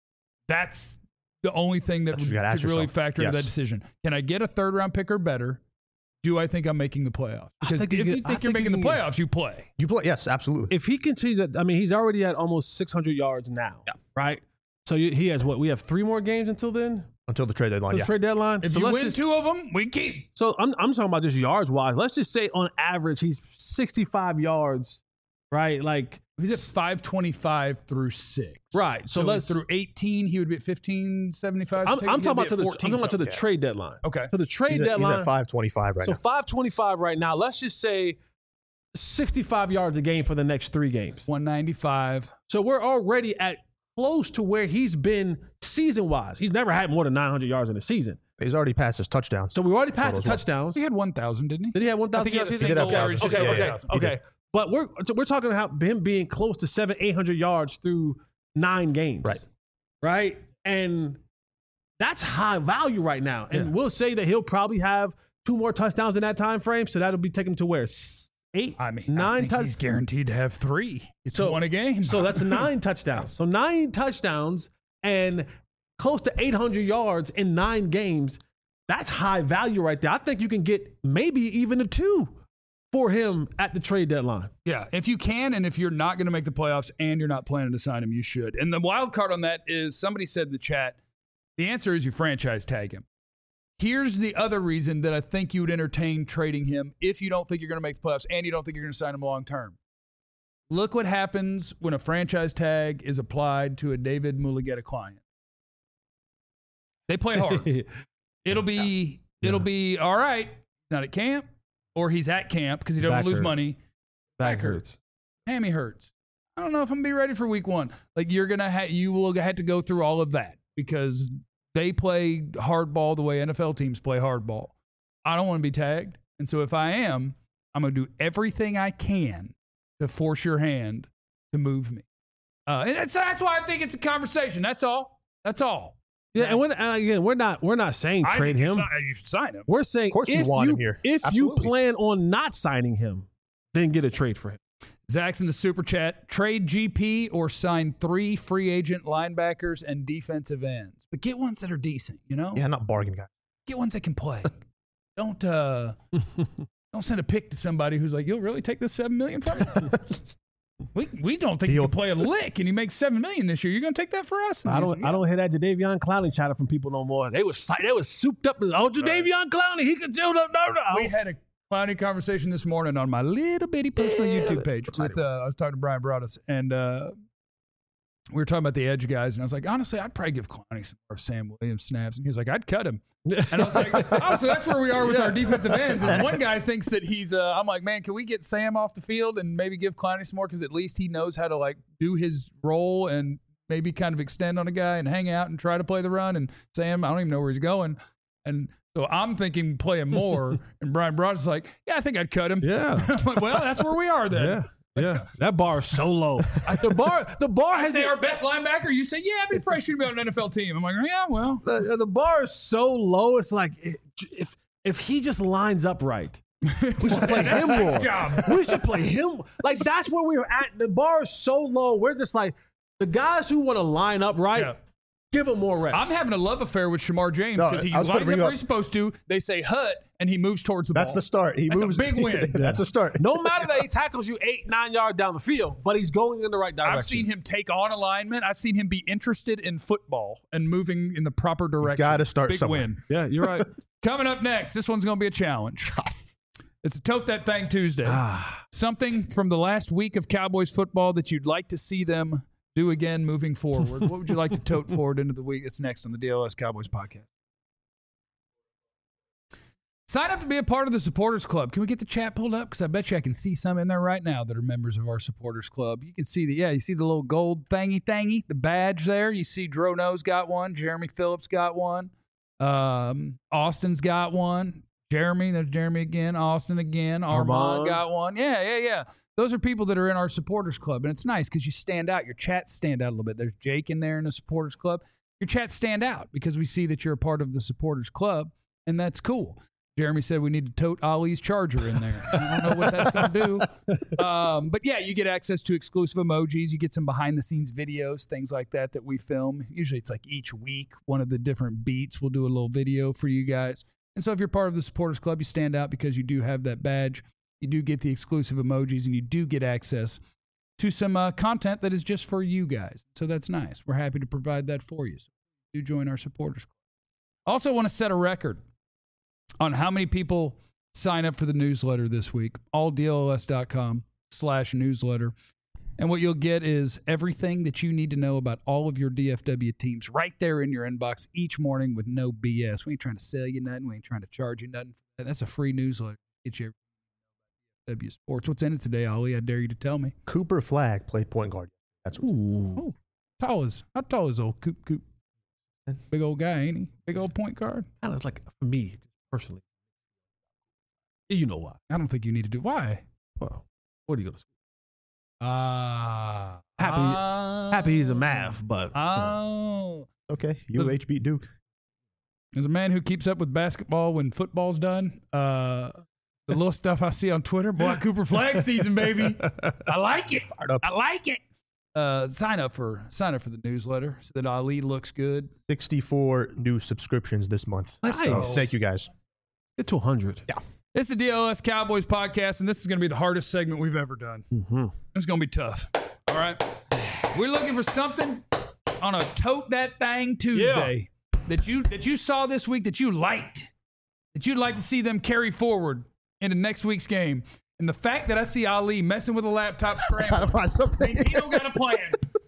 That's the only thing that would, should really factor yes. into that decision. Can I get a third round pick or better? Do I think I'm making the playoffs? Because if you, get, you think I you're think making you the playoffs, you play. You play, yes, absolutely. If he continues, at, I mean, he's already at almost six hundred yards now, yeah. right? So you, he has what? We have three more games until then? Until the trade deadline, Until yeah. the trade deadline. If so you let's win just, two of them, we keep. So I'm, I'm talking about just yards-wise. Let's just say on average, he's sixty-five yards, right? Like he's at five twenty-five through six. Right. So, so let's through eighteen, he would be at fifteen seventy-five. I'm, I'm talking about to the I'm talking about to the yeah. trade deadline. Okay. To the trade he's at, deadline. He's at five twenty-five right so now. So five twenty-five right now. Let's just say sixty-five yards a game for the next three games. one ninety-five. So we're already at close to where he's been season-wise. He's never had more than nine hundred yards in a season. He's already passed his touchdowns. So we already passed the well. touchdowns. He had one thousand, didn't he? Did he have one thousand yards? He did have okay, thousands. okay, Yeah, okay, yeah, yeah. okay. But we're so we're talking about him being close to seven, eight hundred yards through nine games. Right. Right. And that's high value right now. And Yeah. we'll say that he'll probably have two more touchdowns in that time frame. So that'll be taken to where? Eight, I mean, nine I think touchdowns. he's guaranteed to have three. It's So- one a game. So that's nine touchdowns. So nine touchdowns and close to eight hundred yards in nine games. That's high value right there. I think you can get maybe even a two for him at the trade deadline. Yeah, if you can, and if you're not going to make the playoffs and you're not planning to sign him, you should. And the wild card on that is somebody said in the chat, the answer is you franchise tag him. Here's the other reason that I think you would entertain trading him if you don't think you're going to make the playoffs and you don't think you're going to sign him long term. Look what happens when a franchise tag is applied to a David Mulugheta client. They play hard. It'll be yeah. it'll be all right. Not at camp, or he's at camp because he doesn't Back lose hurt. money. Back, Back hurts. Hammy hurts. I don't know if I'm gonna be ready for week one. Like you're gonna ha- you will have to go through all of that because they play hardball the way N F L teams play hardball. I don't want to be tagged, and so if I am, I'm gonna do everything I can to force your hand to move me. Uh, and that's that's why I think it's a conversation. That's all. That's all. Yeah, and, when, and again, we're not we're not saying I trade think him. You, si- you should sign him. We're saying Of course if you want you, him here. If Absolutely. you plan on not signing him, then get a trade for him. Zach's in the super chat. Trade G P or sign three free agent linebackers and defensive ends, but get ones that are decent. You know, Yeah, not bargain guy. get ones that can play. don't uh, don't send a pick to somebody who's like, you'll really take this seven million from me. we we don't think you Deal. can play a lick, and you make seven million this year. You're gonna take that for us? And I he's don't like, I yeah. don't hear that Jadeveon Clowney chatter from people no more. They was they was souped up. Oh, Jadeveon Clowney, he could do no no no. We had a clowny conversation this morning on my little bitty personal YouTube page. With uh, I was talking to Brian Broaddus, and uh, we were talking about the edge guys, and I was like, honestly, I'd probably give Clowney some more Sam Williams snaps, and he was like, I'd cut him. And I was like, oh, so that's where we are with Yeah. our defensive ends. Is one guy thinks that he's, uh, I'm like, man, can we get Sam off the field and maybe give Clowney some more? Because at least he knows how to like do his role and maybe kind of extend on a guy and hang out and try to play the run. And Sam, I don't even know where he's going. And so I'm thinking play him more. And Brian Broad's like, yeah, I think I'd cut him. Yeah. I'm like, well, that's where we are then. Yeah. Yeah, that bar is so low. the bar, the bar I has say our best linebacker. You say, yeah, but he probably shouldn't be on an N F L team. I'm like, yeah, well, the, the bar is so low. It's like if if he just lines up right, we should play him more. Job. We should play him. Like that's where we're at. The bar is so low. We're just like the guys who want to line up right. Yeah. Give him more reps. I'm having a love affair with Shamar James because No, he I was lines gonna up bring where up- he's supposed to. They say hut, and he moves towards the That's ball. the start. He That's moves. a big win. That's a start. No matter that he tackles you eight, nine yards down the field, but he's going in the right direction. I've seen him take on alignment. I've seen him be interested in football and moving in the proper direction. Got to start Big somewhere. win. Yeah, you're right. Coming up next, this one's going to be a challenge. It's a Tote That Thing Tuesday. Ah. Something from the last week of Cowboys football that you'd like to see them do again moving forward. What would you like to tote forward into the week? It's next on the D L S Cowboys podcast. Sign up to be a part of the Supporters Club. Can we get the chat pulled up? Because I bet you I can see some in there right now that are members of our Supporters Club. You can see the, yeah, you see the little gold thingy thingy, the badge there. You see Drono's got one. Jeremy Phillips got one. Um, Austin's got one. Jeremy, there's Jeremy again. Austin again. Armand, Armand. got one. Yeah, yeah, yeah. Those are people that are in our Supporters Club. And it's nice because you stand out. Your chats stand out a little bit. There's Jake in there in the Supporters Club. Your chats stand out because we see that you're a part of the Supporters Club, and that's cool. Jeremy said we need to tote Ollie's charger in there. I don't know what that's going to do. Um, but, yeah, you get access to exclusive emojis. You get some behind-the-scenes videos, things like that that we film. Usually it's like each week, one of the different beats, we'll do a little video for you guys. And so if you're part of the Supporters Club, you stand out because you do have that badge. You do get the exclusive emojis, and you do get access to some uh, content that is just for you guys. So that's nice. We're happy to provide that for you. So do join our Supporters Club. Also want to set a record on how many people sign up for the newsletter this week. all D L S dot com slash newsletter. And what you'll get is everything that you need to know about all of your D F W teams right there in your inbox each morning with no B S. We ain't trying to sell you nothing. We ain't trying to charge you nothing. That's a free newsletter. Get you D F W Sports. What's in it today, Ollie? I dare you to tell me. Cooper Flagg played point guard. That's what. Oh, tall is how tall is old Coop Coop? Big old guy, ain't he? Big old point guard. Kind of like for me personally. You know why? I don't think you need to do. Why? Well, where do you go to school? Ah, uh, Happy, uh, happy he's a math, but Oh, Okay, U H beat Duke. as a man who keeps up with basketball when football's done, uh, the little stuff I see on Twitter, boy, Cooper Flagg season, baby. I like it. Fired up. I like it. Uh, sign up for sign up for the newsletter so that Ali looks good. sixty-four new subscriptions this month. Let's So, go. thank you guys. get to one hundred. Yeah. It's the D L S Cowboys podcast, and this is going to be the hardest segment we've ever done. Mm-hmm. It's going to be tough. All right. We're looking for something on a Tote That Thing Tuesday that you that you saw this week that you liked, that you'd like to see them carry forward into next week's game. And the fact that I see Ali messing with a laptop Gotta scramble find something. means he don't got a plan.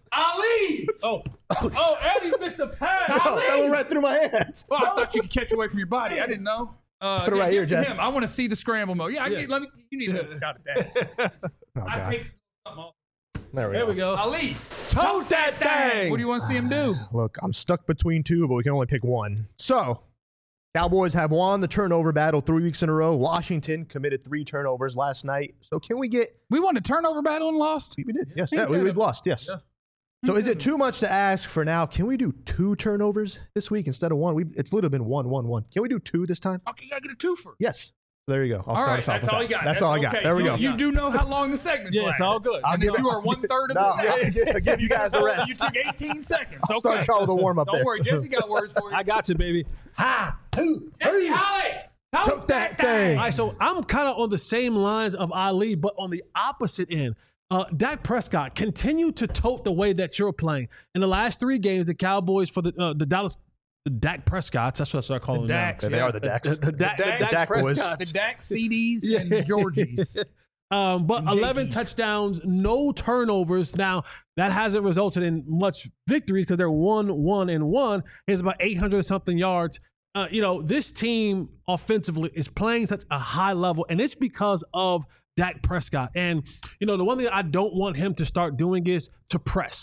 Ali! Oh, oh, Eddie missed a pass. Oh, that Ali! went right through my hands. Well, I thought you could catch away from your body. I didn't know. Uh, Put it yeah, right give here, it to Jeff. him. I want to see the scramble mode. Yeah, I get, let me. You need to shot at that. Oh, I God. take something off. There we There go. we go. Ali, Tote that thing. what do you want to see him do? Look, I'm stuck between two, but we can only pick one. So, Cowboys have won the turnover battle three weeks in a row. Washington committed three turnovers last night. So, can we get? We won a turnover battle and lost. We did. Yes. Ain't Yeah, we, that we've a- lost. Yes. Yeah. So, is it too much to ask for now? Can we do two turnovers this week instead of one? We've, it's literally been one, one, one. Can we do two this time? Okay, you gotta get a twofer. Yes. There you go. I'll All start right, us off that's with all that. you got. That's, all I got. okay. There we So go. You do know how long the segment's Yeah, last. it's all good. I'll And give that it- you are one third of No, the I'll segment. give, I'll give you guys the rest. You took eighteen seconds. I'll Okay. start y'all with a warm up Don't there. worry, Jesse got words for you. I got you, baby. Ha! Jesse Holly, tote, Tote that thing. All right, so I'm kind of on the same lines of Ali, but on the opposite end. Uh, Dak Prescott, continue to tote the way that you're playing. In the last three games, the Cowboys for the uh, the Dallas, the Dak Prescotts, that's what I start calling them now. Dax, They yeah. are the Dax. The, the, Dak, Dak- the Dak, Dak boys. The Prescotts. Dax C Ds and Georgies. Um, but And eleven Jakey's. touchdowns, no turnovers. Now, that hasn't resulted in much victories because they're one, one, and one. It's about eight hundred something yards. Uh, you know, this team offensively is playing such a high level, and it's because of Dak Prescott. And, you know, the one thing I don't want him to start doing is to press.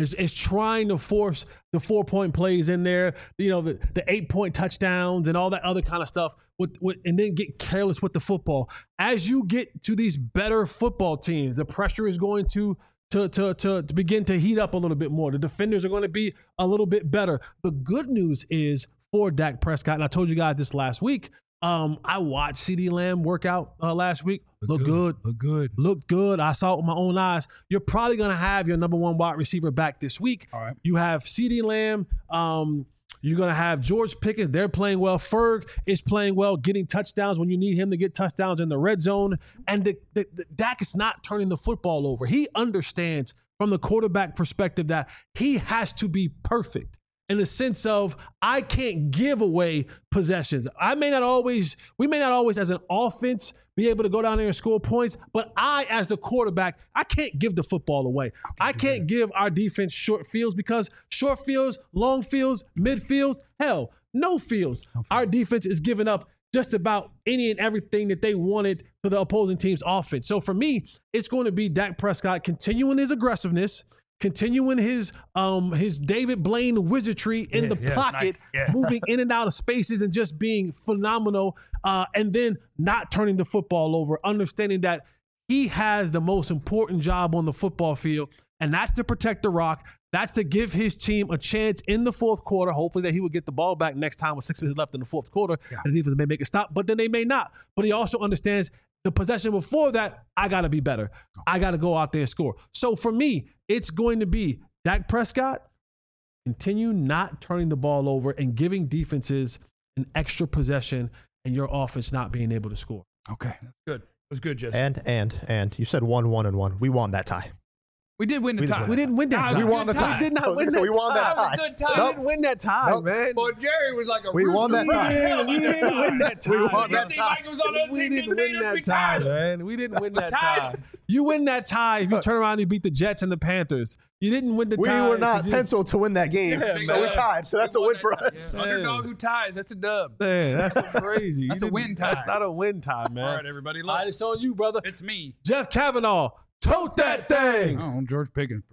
is, is trying to force the four-point plays in there, you know, the, the eight-point touchdowns and all that other kind of stuff, with, with, and then get careless with the football. As you get to these better football teams, the pressure is going to To, to, to, to begin to heat up a little bit more. The defenders are going to be a little bit better. The good news is for Dak Prescott, and I told you guys this last week, um, I watched CeeDee Lamb work out uh, last week. Look, Look good. good. Look good. Look good. I saw it with my own eyes. You're probably going to have your number one wide receiver back this week. All right. You have CeeDee Lamb. Um, You're going to have George Pickens. They're playing well. Ferg is playing well, getting touchdowns when you need him to get touchdowns in the red zone. And the, the, the, Dak is not turning the football over. He understands from the quarterback perspective that he has to be perfect in the sense of I can't give away possessions. I may not always, we may not always as an offense be able to go down there and score points, but I as the quarterback, I can't give the football away. I can't give our defense short fields because short fields, long fields, midfields, hell, no fields. Our defense is giving up just about any and everything that they wanted to the opposing team's offense. So for me, it's going to be Dak Prescott continuing his aggressiveness, continuing his um his David Blaine wizardry in Yeah, the yeah, pocket, nice. Yeah. moving in and out of spaces and just being phenomenal, uh, and then not turning the football over, understanding that he has the most important job on the football field, and that's to protect the rock. That's to give his team a chance in the fourth quarter. Hopefully that he will get the ball back next time with six minutes left in the fourth quarter. Yeah. And the defense may make a stop, but then they may not. But he also understands the possession before that, I got to be better. I got to go out there and score. So for me, it's going to be Dak Prescott, continue not turning the ball over and giving defenses an extra possession and your offense not being able to score. Okay, that's good. It was good, Jesse. And, and, and you said one, one, and one. We won that tie. we did win the we did tie. win We didn't win that That was tie. a We won good the tie. tie. We did not I was win gonna that say, we won tie. that That was tie. a good tie. We didn't win that tie, Nope. man. Boy, Jerry was like a We won rooster. that tie. We didn't win that tie. We won You that see tie. Mike was on the other We team, didn't didn't beat win us, that we tie, tied. man. We didn't win that tied. tie. You win that tie if you turn around and you beat the Jets and the Panthers. You didn't win the We tie. were not 'cause you- penciled to win that game, Yeah, so man. we tied. So that's We a won win for that tie. us. Yeah. Underdog who ties, that's a dub. Man, that's crazy. You That's a didn't- win tie. That's not a win tie, man. All right, everybody, All look. right, it's on you, brother. It's me. Jeff Kavanaugh, tote that thing. Oh, George Pickens.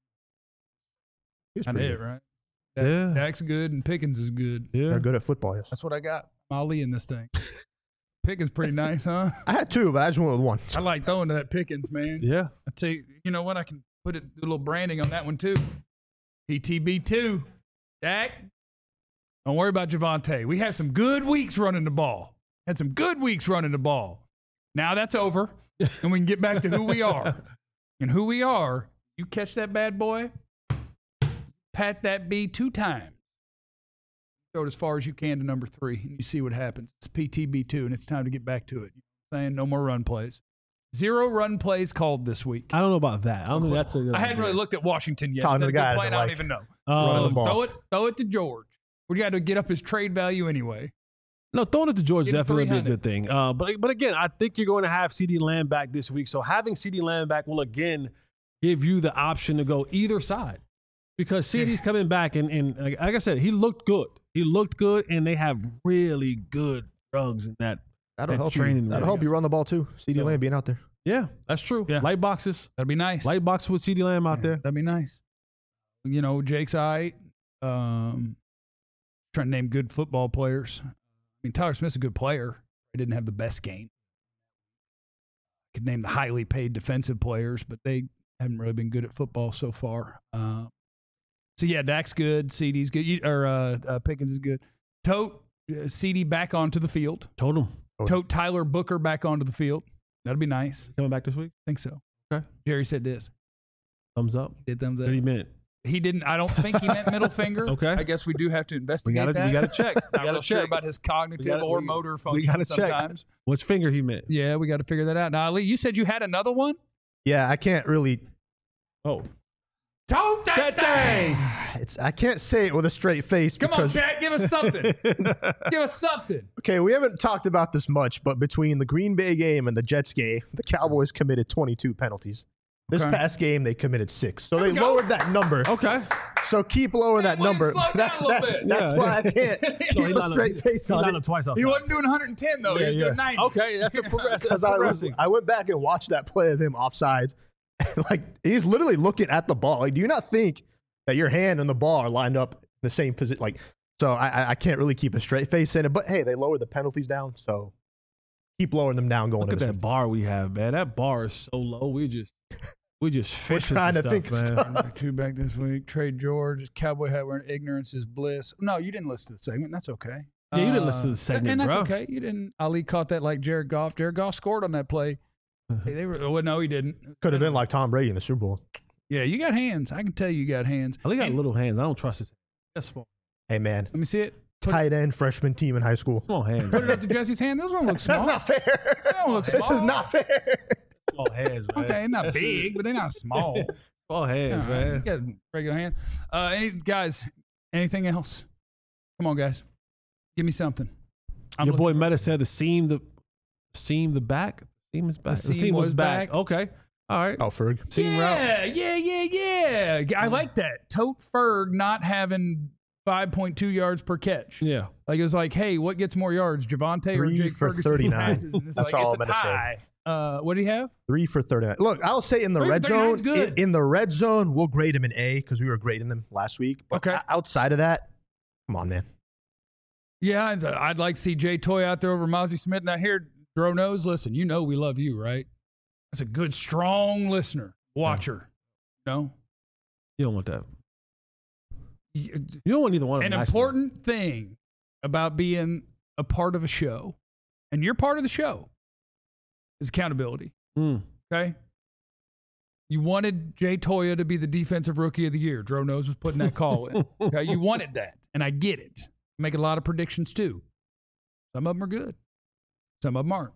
He's I pretty did, good. right? Dak's, Yeah. Dak's good and Pickens is good. Yeah. They're good at football, yes. That's what I got. I'm Ali in this thing. Pickens pretty nice, huh? I had two, but I just went with one. I like throwing to that Pickens, man. Yeah. I tell you, you know what? I can put it, do a little branding on that one too. P T B two. Dak, don't worry about Javonte. We had some good weeks running the ball. Had some good weeks running the ball. Now that's over, and we can get back to who we are. And who we are, you catch that bad boy, pat that B two times. Throw it as far as you can to number three, and you see what happens. It's P T B two, and it's time to get back to it. You know what I'm saying? No more run plays. Zero run plays called this week. I don't know about that. I don't think that's a good I hadn't idea. really looked at Washington yet. Talking Is to that the a guy good that plan? doesn't I don't like even know. running the Um, ball. Throw it, throw it to George. We got to get up his trade value anyway. No, throwing it to George is Give him definitely be a three hundred. good thing. Uh, but but again, I think you're going to have CeeDee Lamb back this week. So having CeeDee Lamb back will again give you the option to go either side because CeeDee's coming back and, and like, like I said, he looked good. He looked good, and they have really good drugs in that. That'll that help training you. That'll room. help you run the ball too. CeeDee So- Lamb being out there. Yeah, that's true. Yeah. Light boxes, That'd be nice. light box with CeeDee Lamb out there. That'd be nice. You know, Jake's all right. Um, trying to name good football players. I mean, Tyler Smith's a good player. He didn't have the best game. Could name the highly paid defensive players, but they haven't really been good at football so far. Uh, so yeah, Dak's good. C D's good. You- Or uh, uh, Pickens is good. Tote uh, C D back onto the field. Told him Tote Tyler Booker back onto the field. That'd be nice. coming back this week. I think so. Okay. Jerry said this. Thumbs up. Did thumbs up. What he meant. He didn't. I don't think he meant middle finger. Okay. I guess we do have to We investigate gotta that. we gotta check. We Not gotta real sure check about his cognitive We gotta- or we- motor we function gotta check. sometimes. which finger he meant. Yeah, we got to figure that out. Now, Ali, you said you had another one. Yeah, I can't really. Oh, Tote that, thing. It's I can't say it with a straight face Come on, because Chad, give us something. give us something. okay, we haven't talked about this much, but between the Green Bay game and the Jets game, the Cowboys committed twenty-two penalties. This Okay. past game, they committed six, so There they we go. lowered that number. okay. So keep lowering that Sam Williams number. slowed down That- a little that- bit. That's Yeah, why yeah. I can't No, keep he a lined straight up- face he on lined it. up twice off He sides. wasn't doing one hundred ten, though. Yeah, he was yeah. doing ninety. Okay, that's a progress. That's Because I, was- progressing. I went back and watched that play of him offside. And like he's literally looking at the ball. Like, do you not think that your hand and the ball are lined up in the same position. Like, so I, I can't really keep a straight face in it. But hey, they lowered the penalties down, so keep lowering them down. Going Look to at this that week. bar we have, man. That bar is so low. We just we just fishing trying for to stuff, think of man. stuff. Back two back this week. Trade George. Cowboy hat wearing ignorance is bliss. No, you didn't listen to the segment. That's okay. Yeah, you didn't listen to Uh, the segment, and that's bro. okay. You didn't. Ali caught that like Jared Goff. Jared Goff scored on that play. Hey, they were. Oh, no, he didn't. Could have been like Tom Brady in the Super Bowl. Yeah, you got hands. I can tell you got hands. Ali got And- little hands. I don't trust his. That's small. Hey man, Let me see it. Put, tight end freshman team in high school. Small hands. put it man. up to Jesse's hand. Those don't look small. That's not fair. don't look This is small. not fair. Small hands, man. Okay, not That's big, it. but they're not small. Small hands, All right, man. you got regular hand. Uh, any guys? Anything else? Come on, guys. Give me something. I'm Your boy looking for- Meta said the seam, the seam, the back. Seam is back. The seam was, was back. back. Okay. All right. Oh, Ferg. Seam route. Yeah, yeah, yeah, yeah. I like that. Tote Ferg not having five point two yards per catch. Yeah. Like it was like, hey, what gets more yards, Javonte or Three Jake for Ferguson? thirty-nine. It's That's like, all it's I'm a gonna say. tie. Uh, what do you have? Three for thirty-nine. Look, I'll say in the Three for red thirty-nine is zone, good. in, in the red zone, we'll grade him an A because we were grading them last week. But Okay. o- outside of that, come on, man. Yeah, I'd, I'd like to see Jay Toy out there over Mozzie Smith. Now here, Dro knows. Listen, you know we love you, right? That's a good, strong listener, watcher. No, You don't want that. Y- You don't want either one of an them. actually. important thing about being a part of a show, and you're part of the show, is accountability. Mm. Okay. You wanted Jay Toya to be the defensive rookie of the year. Dro knows was putting that call in. Okay. You wanted that. And I get it. Make a lot of predictions too. Some of them are good. Some of them aren't.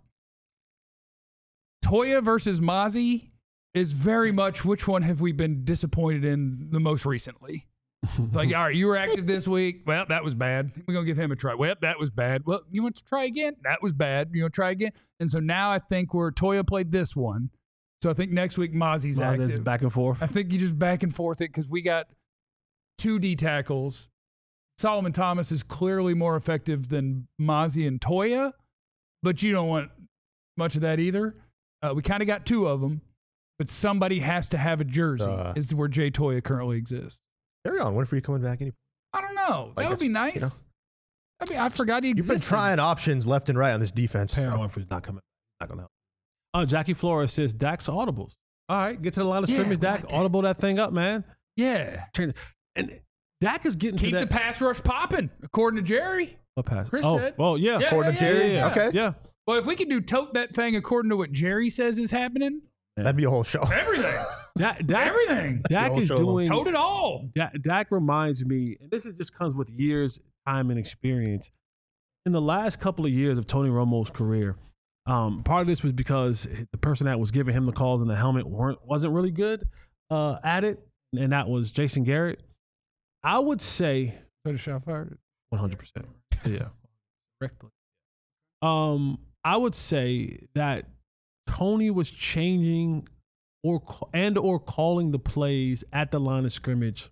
Toya versus Mozzie is very much which one have we been disappointed in the most recently? It's like, all right, you were active this week. Well, that was bad. We're going to give him a try. Well, that was bad. Well, you want to try again? That was bad. You want to try again? And so now I think where Toya played this one. So I think next week Mozzie's Well, that's active. back and forth. I think you just back and forth it because we got two D tackles. Solomon Thomas is clearly more effective than Mozzie and Toya, but you don't want much of that either. Uh, we kind of got two of them, but somebody has to have a jersey. Uh, is where Jay Toya currently exists. Carry on. When are you coming back? Any? I don't know. Like that would it's- be nice. you know. I mean, I forgot he You've existed. been trying options left and right on this defense. Perrin Winfrey's not coming. Not gonna help. Uh, Jackie Flores says Dak's audibles. All right, get to the line of Yeah, scrimmage. I Dak, like that. audible that thing up, man. Yeah. Turn it- And Dak is getting Keep to the that. pass rush popping, according to Jerry. What pass? Chris oh, said. well, yeah. Yeah, According yeah, to Jerry? yeah, yeah. Okay. Yeah. Well, if we could do tote that thing according to what Jerry says is happening, That'd be a whole show. everything. Dak, Dak, Everything. Dak The is whole show doing. Tote it all. Dak, Dak reminds me, and this is just comes with years, time, and experience. In the last couple of years of Tony Romo's career, um, part of this was because the person that was giving him the calls in the helmet weren't wasn't really good uh, at it, and that was Jason Garrett. I would say Put a shot fired. one hundred percent. Yeah, correctly. Um, I would say that Tony was changing or ca- and or calling the plays at the line of scrimmage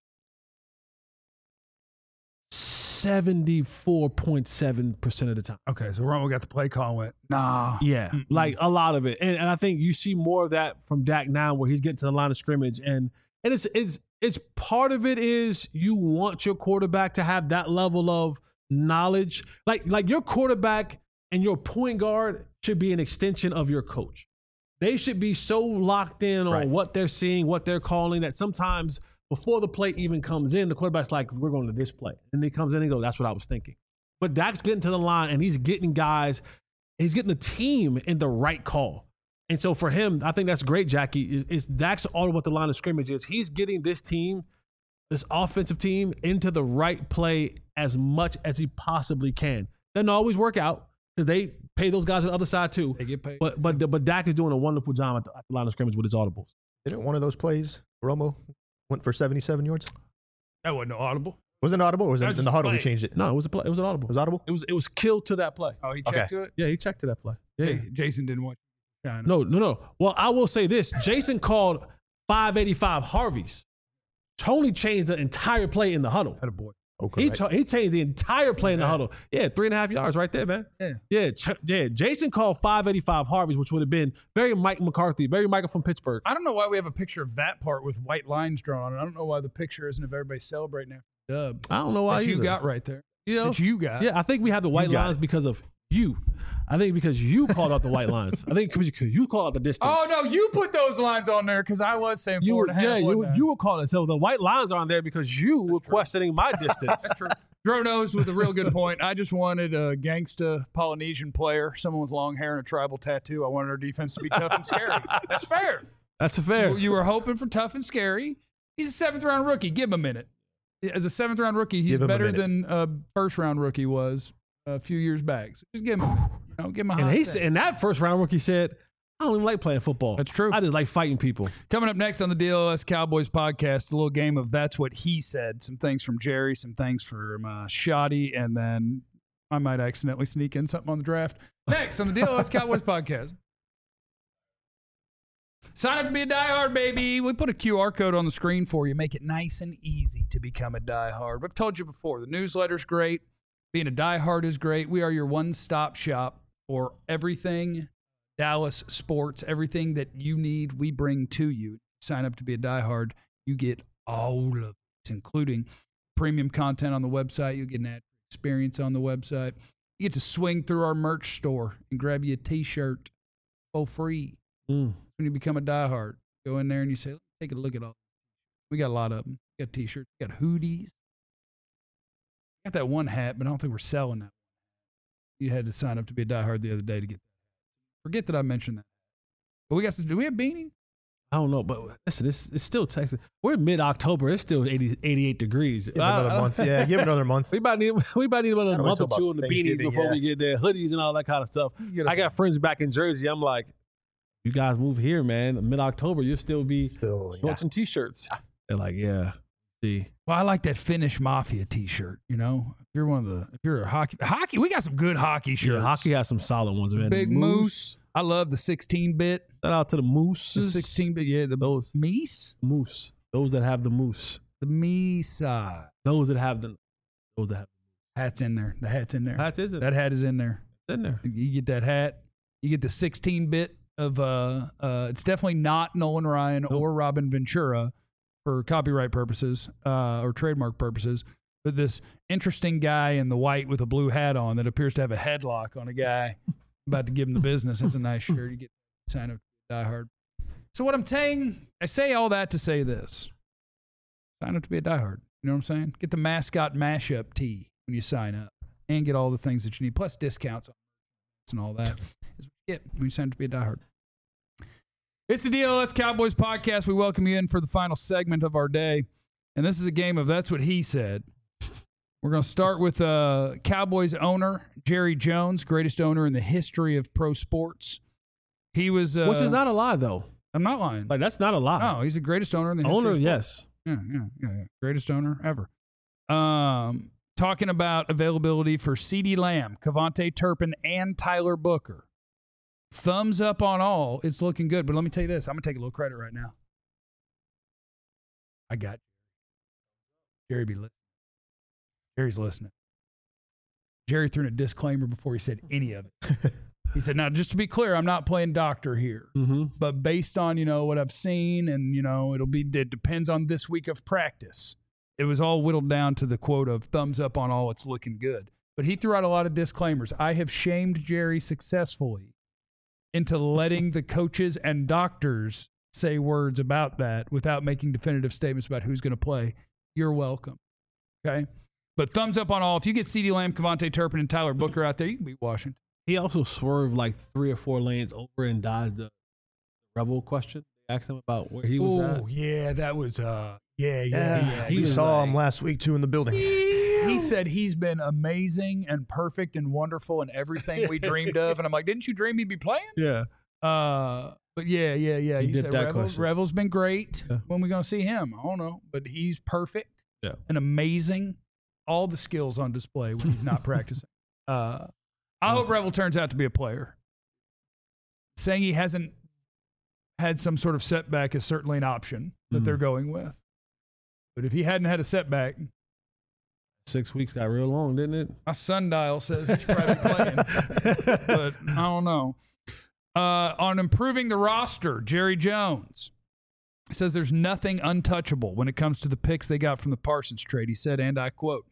seventy-four point seven percent of the time. Okay, so Romo got the play call and went, nah. Yeah, Mm-mm. like a lot of it. And, and I think you see more of that from Dak now where he's getting to the line of scrimmage. And and it's it's it's part of it is you want your quarterback to have that level of knowledge. Like like your quarterback and your point guard should be an extension of your coach. They should be so locked in on Right. what they're seeing, what they're calling, that sometimes before the play even comes in, the quarterback's like, we're going to this play. And he comes in and goes, that's what I was thinking. But Dak's getting to the line and he's getting guys, he's getting the team in the right call. And so for him, I think that's great, Jackie, is, is Dak's all what the line of scrimmage is. He's getting this team, this offensive team, into the right play as much as he possibly can. Doesn't always work out because they pay those guys on the other side too. They get paid. But but but Dak is doing a wonderful job at the, at the line of scrimmage with his audibles. Didn't one of those plays, Romo went for seventy-seven yards? That wasn't no audible. Was it audible or was That it was in the just huddle? We play. changed it. No, it was a play. It was an audible. It was audible? It was it was killed to that play. Oh, he Okay. checked to it? Yeah, he checked to that play. Yeah. Hey, Jason didn't want you to shine. No, no, no. Well, I will say this: Jason called five eighty-five Harveys. Tony changed the entire play in the huddle. Had a boy. Okay. He, cha- he changed the entire play in the huddle. Yeah, three and a half yards right there, man. Yeah. Yeah, ch- yeah. Jason called five eighty-five Harvey's, which would have been very Mike McCarthy, very Michael from Pittsburgh. I don't know why we have a picture of that part with white lines drawn on it. I don't know why the picture isn't of everybody celebrating after the dub. I don't know why that you either. got right there. You know? That you got. Yeah, I think we have the white got lines it. because of you. I think because you called out the white lines. I think because you called out the distance. Oh, no, you put those lines on there because I was saying You four were, and a half. yeah, you, wasn't I? you were calling it. So the white lines are on there because you were true. questioning my distance. True. Dro knows with a real good point. I just wanted a gangsta Polynesian player, someone with long hair and a tribal tattoo. I wanted our defense to be tough and scary. That's fair. That's a fair. You were hoping for tough and scary. He's a seventh round rookie. Give him a minute. As a seventh round rookie, he's Give him a better minute. than a first round rookie was a few years back. So just give him a minute. You know, give him a hot And he set. said, and that first round rookie said, I don't even like playing football. That's true. I just like fighting people. Coming up next on the D L S Cowboys podcast, a little game of That's What He Said. Some things from Jerry, some things from uh, Shoddy, and then I might accidentally sneak in something on the draft. Next on the D L S Cowboys podcast. Sign up to be a diehard, baby. We put a Q R code on the screen for you. Make it nice and easy to become a diehard. We've told you before, the newsletter's great. Being a diehard is great. We are your one-stop shop for everything Dallas sports, everything that you need, we bring to you. Sign up to be a diehard. You get all of it, including premium content on the website. You get an ad experience on the website. You get to swing through our merch store and grab you a T-shirt for free. Mm. When you become a diehard, go in there and you say, let's take a look at all. We got a lot of them. We got T-shirts. We got hoodies. Got that one hat, but I don't think we're selling that. You had to sign up to be a diehard the other day to get that. Forget that I mentioned that. But we got some, do we have beanie? I don't know, but listen, it's, it's still Texas. We're mid-October. It's still eighty, eighty-eight degrees. Give it another I- I- month. Yeah, give it another month. We about need we about need another Gotta wait month or till two about on the beanies Thanksgiving, before yeah. we get there, hoodies and all that kind of stuff. Get a- I got friends back in Jersey. I'm like, you guys move here, man. Mid-October, you'll still be Still, yeah. shorts and t-shirts. They're like, yeah. See, Well, I like that Finnish Mafia T-shirt. You know, if you're one of the, if you're a hockey, hockey, we got some good hockey shirts. yeah, hockey has some solid ones, man. Big Moose. I love the sixteen bit. Shout out to the The mooses. sixteen bit, yeah. The Those Meese, moose. Those that have the moose. the Meesa. Those that have the. Those that have Hat's in there. The hat's in there. the hats. Is it? That hat is in there. It's in there. You get that hat. You get the sixteen bit of. Uh, uh, it's definitely not Nolan Ryan Nope. or Robin Ventura for copyright purposes uh, or trademark purposes. But this interesting guy in the white with a blue hat on that appears to have a headlock on a guy about to give him the business. It's a nice shirt. You get sign up to Die Hard. So what I'm saying, I say all that to say this: sign up to be a diehard. You know what I'm saying? Get the mascot mashup tee when you sign up, and get all the things that you need, plus discounts and all that. Is what you get when you sign up to be a diehard. It's the D L S Cowboys podcast. We welcome you in for the final segment of our day, and this is a game of That's What He Said. We're going to start with uh, Cowboys owner Jerry Jones, greatest owner in the history of pro sports. He was, uh, Which is not a lie, though. I'm not lying. Like that's not a lie. No, he's the greatest owner in the history Owner, of sports. yes. Yeah, yeah, yeah, yeah. Greatest owner ever. Um, talking about availability for CeeDee Lamb, Cavante Turpin, and Tyler Booker. Thumbs up on all. It's looking good. But let me tell you this. I'm going to take a little credit right now. I got you. Jerry be listening. Jerry's listening. Jerry threw in a disclaimer before he said any of it. He said, now, just to be clear, I'm not playing doctor here. Mm-hmm. But based on, you know, what I've seen and, you know, it'll be, it depends on this week of practice. It was all whittled down to the quote of thumbs up on all, it's looking good. But he threw out a lot of disclaimers. I have shamed Jerry successfully into letting the coaches and doctors say words about that without making definitive statements about who's going to play. You're welcome. Okay? But thumbs up on all. If you get CeeDee Lamb, Cavante Turpin, and Tyler Booker out there, you can beat Washington. He also swerved like three or four lanes over and dodged the Rebel question. They asked him about where he was Oh, at. yeah, that was, uh, yeah, yeah, Yeah, yeah. he we was saw like- him last week too in the building. He said he's been amazing and perfect and wonderful and everything we dreamed of. And I'm like, didn't you dream he'd be playing? Yeah. Uh, but yeah, yeah, yeah. He He, did said that Revel, question. Revel's been great. Yeah. When we going to see him? I don't know. But he's perfect Yeah. and amazing. All the skills on display when he's not practicing. Uh, I hope Revel turns out to be a player. Saying he hasn't had some sort of setback is certainly an option that Mm. they're going with. But if he hadn't had a setback, Six weeks got real long, didn't it? My sundial says he's probably playing, but I don't know. Uh, on improving the roster, Jerry Jones says there's nothing untouchable when it comes to the picks they got from the Parsons trade. He said, and I quote,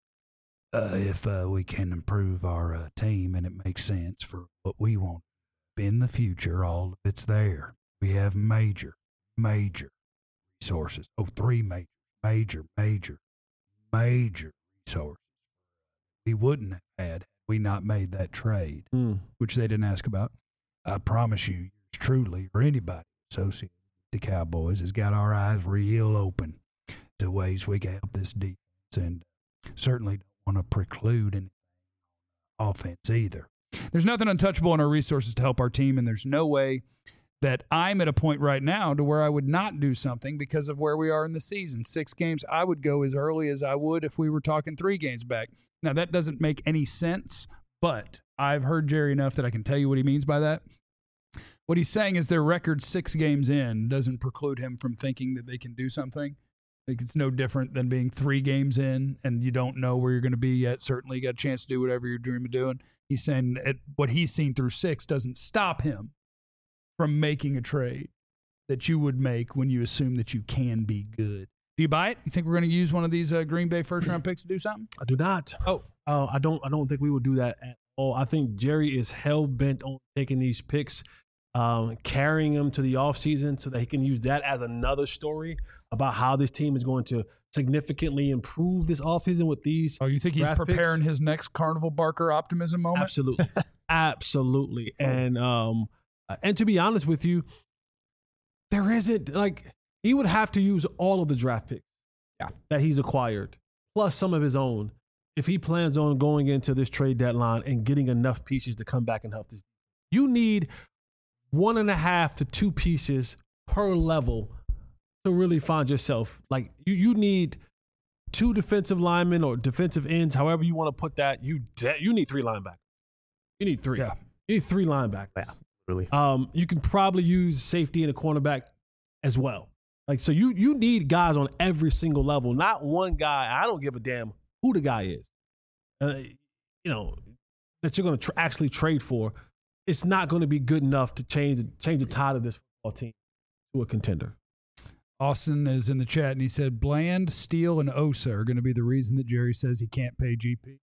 uh, if uh, we can improve our uh, team and it makes sense for what we want in the future, all of it's there. We have major, major resources. Oh, three major, major, major, major resources we wouldn't have had had we not made that trade, Mm. which they didn't ask about. I promise you, yours truly, or anybody associated with the Cowboys has got our eyes real open to ways we can help this defense, and certainly don't want to preclude any offense either. There's nothing untouchable in our resources to help our team, and there's no way that I'm at a point right now to where I would not do something because of where we are in the season. Six games, I would go as early as I would if we were talking three games back. Now, that doesn't make any sense, but I've heard Jerry enough that I can tell you what he means by that. What he's saying is their record six games in doesn't preclude him from thinking that they can do something. Like, it's no different than being three games in and you don't know where you're going to be yet. Certainly, you got a chance to do whatever you're dreaming of doing. He's saying it, what he's seen through six doesn't stop him from making a trade that you would make when you assume that you can be good. Do you buy it? You think we're going to use one of these uh, Green Bay first-round picks to do something? I do not. Oh. Uh, I don't I don't think we would do that at all. I think Jerry is hell-bent on taking these picks, um, carrying them to the offseason so that he can use that as another story about how this team is going to significantly improve this offseason with these. Oh, you think he's draft preparing picks? his next Carnival Barker optimism moment? Absolutely. Absolutely. And um, and to be honest with you, there isn't, like, he would have to use all of the draft picks Yeah. that he's acquired, plus some of his own, if he plans on going into this trade deadline and getting enough pieces to come back and help this. You need one and a half to two pieces per level to really find yourself. Like, you, you need two defensive linemen or defensive ends, however you want to put that. You de- you need three linebackers. You need three. Yeah. You need three linebackers. Yeah, really. Um, you can probably use safety and a cornerback as well. Like, so you you need guys on every single level, not one guy. I don't give a damn who the guy is, uh, you know, that you're going to tr- actually trade for. It's not going to be good enough to change change the tide of this football team to a contender. Austin is in the chat, and he said Bland, Steele, and Osa are going to be the reason that Jerry says he can't pay G P.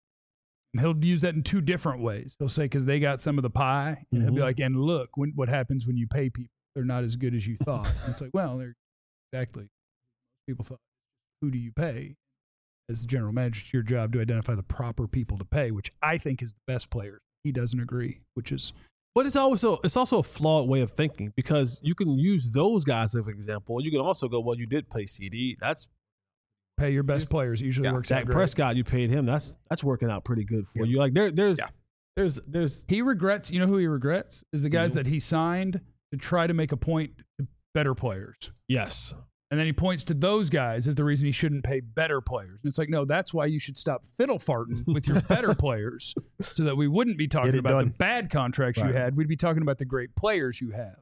And he'll use that in two different ways. He'll say because they got some of the pie, and he'll be Mhm. like, and look, when, what happens when you pay people? They're not as good as you thought. And it's like, well, they're exactly. People thought, who do you pay? As the general manager, it's your job to identify the proper people to pay, which I think is the best player. He doesn't agree, which is But it's also it's also a flawed way of thinking, because you can use those guys as an example. You can also go, well, you did pay C D. That's pay your best players. It usually Yeah. works out Dak great. Prescott. You paid him. That's that's working out pretty good for you. Like there there's Yeah. there's there's He regrets, you know who he regrets? Is the guys Mhm. that he signed to try to make a point to better players. yes. And then he points to those guys as the reason he shouldn't pay better players. And it's like, no, that's why you should stop fiddle farting with your better players so that we wouldn't be talking Get it about done. the bad contracts Right. you had. We'd be talking about the great players you have.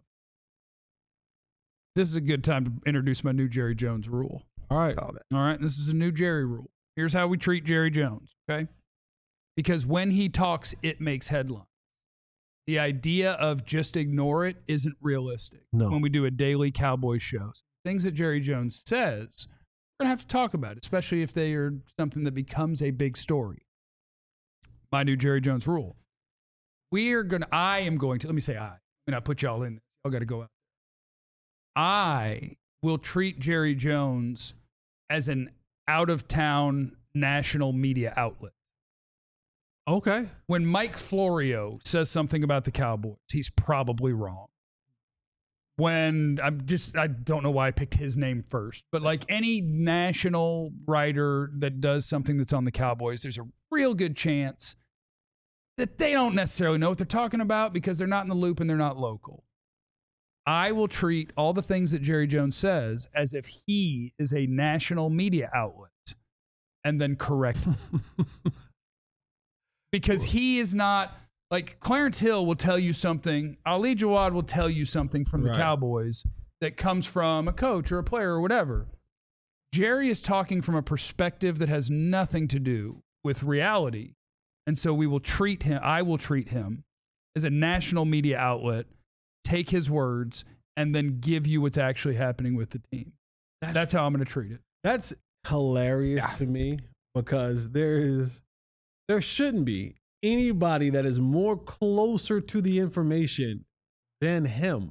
This is a good time to introduce my new Jerry Jones rule. All right. Oh, man. All right, this is a new Jerry rule. Here's how we treat Jerry Jones, okay? Because when he talks, it makes headlines. The idea of just ignore it isn't realistic. No. When we do a daily Cowboys show, things that Jerry Jones says, we're going to have to talk about, especially if they are something that becomes a big story. My new Jerry Jones rule. We are going to, I am going to, let me say I. I mean, I put y'all in. Y'all got to go out. I will treat Jerry Jones as an out-of-town national media outlet. Okay. When Mike Florio says something about the Cowboys, he's probably wrong. When I'm just, I don't know why I picked his name first, but like any national writer that does something that's on the Cowboys, there's a real good chance that they don't necessarily know what they're talking about because they're not in the loop and they're not local. I will treat all the things that Jerry Jones says as if he is a national media outlet and then correct him. Because he is not, like Clarence Hill will tell you something, Ali Jawad will tell you something from the Right. Cowboys that comes from a coach or a player or whatever. Jerry is talking from a perspective that has nothing to do with reality. And so we will treat him, I will treat him as a national media outlet, take his words, and then give you what's actually happening with the team. That's, that's how I'm going to treat it. That's hilarious yeah. to me because there is, there shouldn't be anybody that is more closer to the information than him.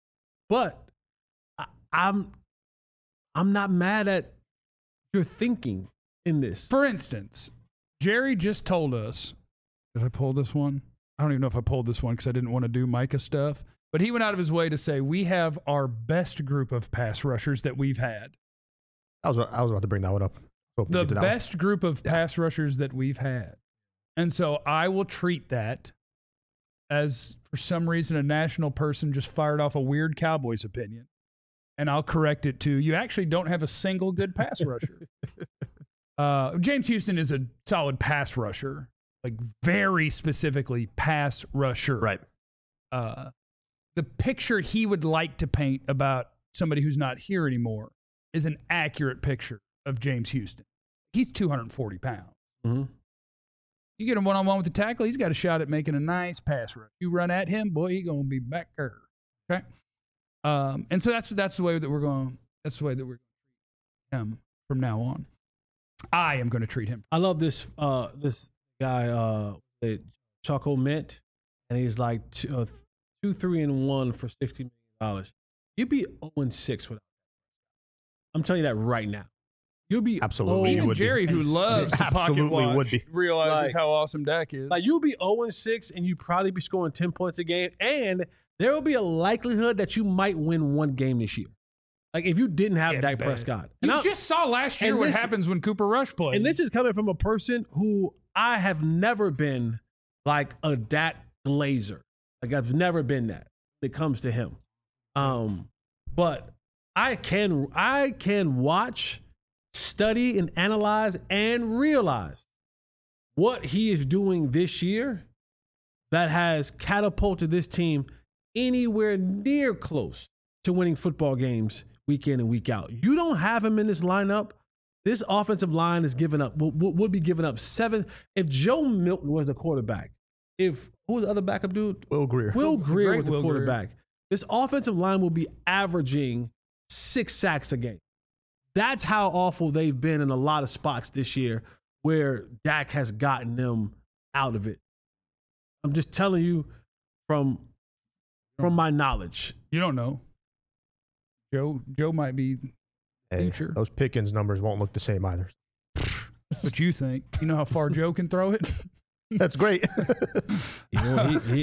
But I, I'm, I'm not mad at your thinking in this. For instance, Jerry just told us, did I pull this one? I don't even know if I pulled this one because I didn't want to do Micah stuff. But he went out of his way to say, we have our best group of pass rushers that we've had. I was, I was about to bring that one up. The best one. group of yeah. pass rushers that we've had. And so I will treat that as, for some reason, a national person just fired off a weird Cowboys opinion. And I'll correct it to, you actually don't have a single good pass rusher. Uh, James Houston is a solid pass rusher, like very specifically pass rusher. Right. Uh, the picture he would like to paint about somebody who's not here anymore is an accurate picture of James Houston. He's two hundred forty pounds. Mm-hmm. You get him one-on-one with the tackle, he's got a shot at making a nice pass rush. You run at him, boy, he's going to be back there. Okay? Um, and so that's that's the way that we're going. That's the way that we're going to treat him from now on. I am going to treat him. I love this. Uh, this guy, uh, Choco Mint, and he's like two, uh, two, three, and one for sixty million dollars. You'd be zero and six without. I'm telling you that right now. You'll be absolutely. Even Jerry, who loves to pocket watch, would be. realizes like, how awesome Dak is. Like you'll be zero and six, and you probably be scoring ten points a game, and there will be a likelihood that you might win one game this year. Like if you didn't have yeah, Dak Prescott. And you I, just saw last year what this, happens when Cooper Rush plays. And this is coming from a person who I have never been like a Dak glazer. Like I've never been that when it comes to him. Um, but I can I can watch, study, and analyze and realize what he is doing this year that has catapulted this team anywhere near close to winning football games week in and week out. You don't have him in this lineup. This offensive line is giving up, would, would be giving up seven. If Joe Milton was the quarterback, if, who was the other backup dude? Will Greer. Will Greer was the Will quarterback. Greer. This offensive line will be averaging six sacks a game. That's how awful they've been in a lot of spots this year where Dak has gotten them out of it. I'm just telling you from, from my knowledge. You don't know. Joe Joe might be hey, future. Those Pickens numbers won't look the same either. But you think? You know how far Joe can throw it? That's great. You know, he, he,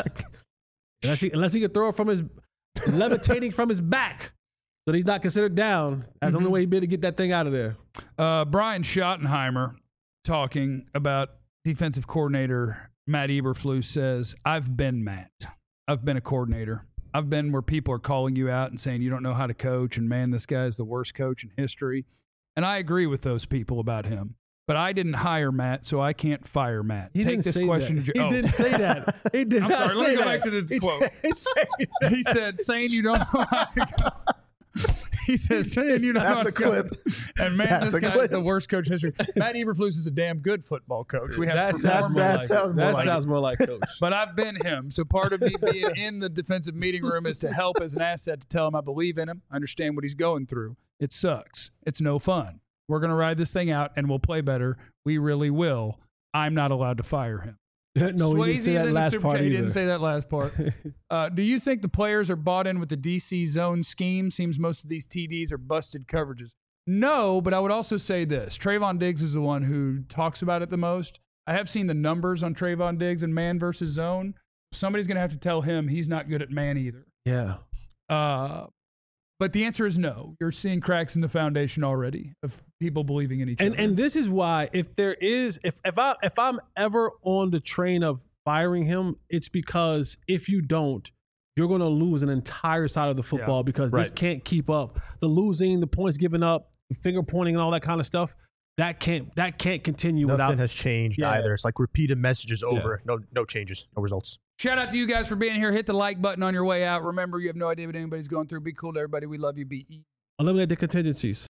unless, he, unless he can throw it from his levitating from his back, so that he's not considered down. That's mm-hmm. the only way he'd be able to get that thing out of there. Uh, Brian Schottenheimer talking about defensive coordinator Matt Eberflus says, I've been Matt. I've been a coordinator. I've been where people are calling you out and saying you don't know how to coach, and man, this guy is the worst coach in history. And I agree with those people about him. But I didn't hire Matt, so I can't fire Matt. He Take didn't this say question that. to He oh. didn't say that. He did I'm not sorry. say Let me go that. back to the he quote. He said, saying you don't know how to go. He says, saying you don't know how to That's a clip. Go. And man, That's this guy clip. is the worst coach in history. Matt Eberflus is a damn good football coach. We have that to sounds, more that like, sounds, more that like, sounds more like coach. But I've been him. So part of me being in the defensive meeting room is to help as an asset to tell him I believe in him, I understand what he's going through. It sucks. It's no fun. We're going to ride this thing out and we'll play better. We really will. I'm not allowed to fire him. No, he didn't say that last part He either. didn't say that last part. uh, do you think the players are bought in with the D C zone scheme? Seems most of these T Ds are busted coverages. No, but I would also say this. Trayvon Diggs is the one who talks about it the most. I have seen the numbers on Trayvon Diggs and man versus zone. Somebody's going to have to tell him he's not good at man either. Yeah. Uh, but the answer is no. You're seeing cracks in the foundation already of people believing in each and, other. And this is why, if there is, if if I if I'm ever on the train of firing him, it's because if you don't, you're going to lose an entire side of the football Yeah. because Right. this can't keep up. The losing, the points given up, the finger pointing, and all that kind of stuff. That can't that can't continue Nothing without. has changed Yeah. either. It's like repeated messages over. Yeah. No, no changes, no results. Shout out to you guys for being here. Hit the like button on your way out. Remember, you have no idea what anybody's going through. Be cool to everybody. We love you. Be easy. Eliminate the contingencies.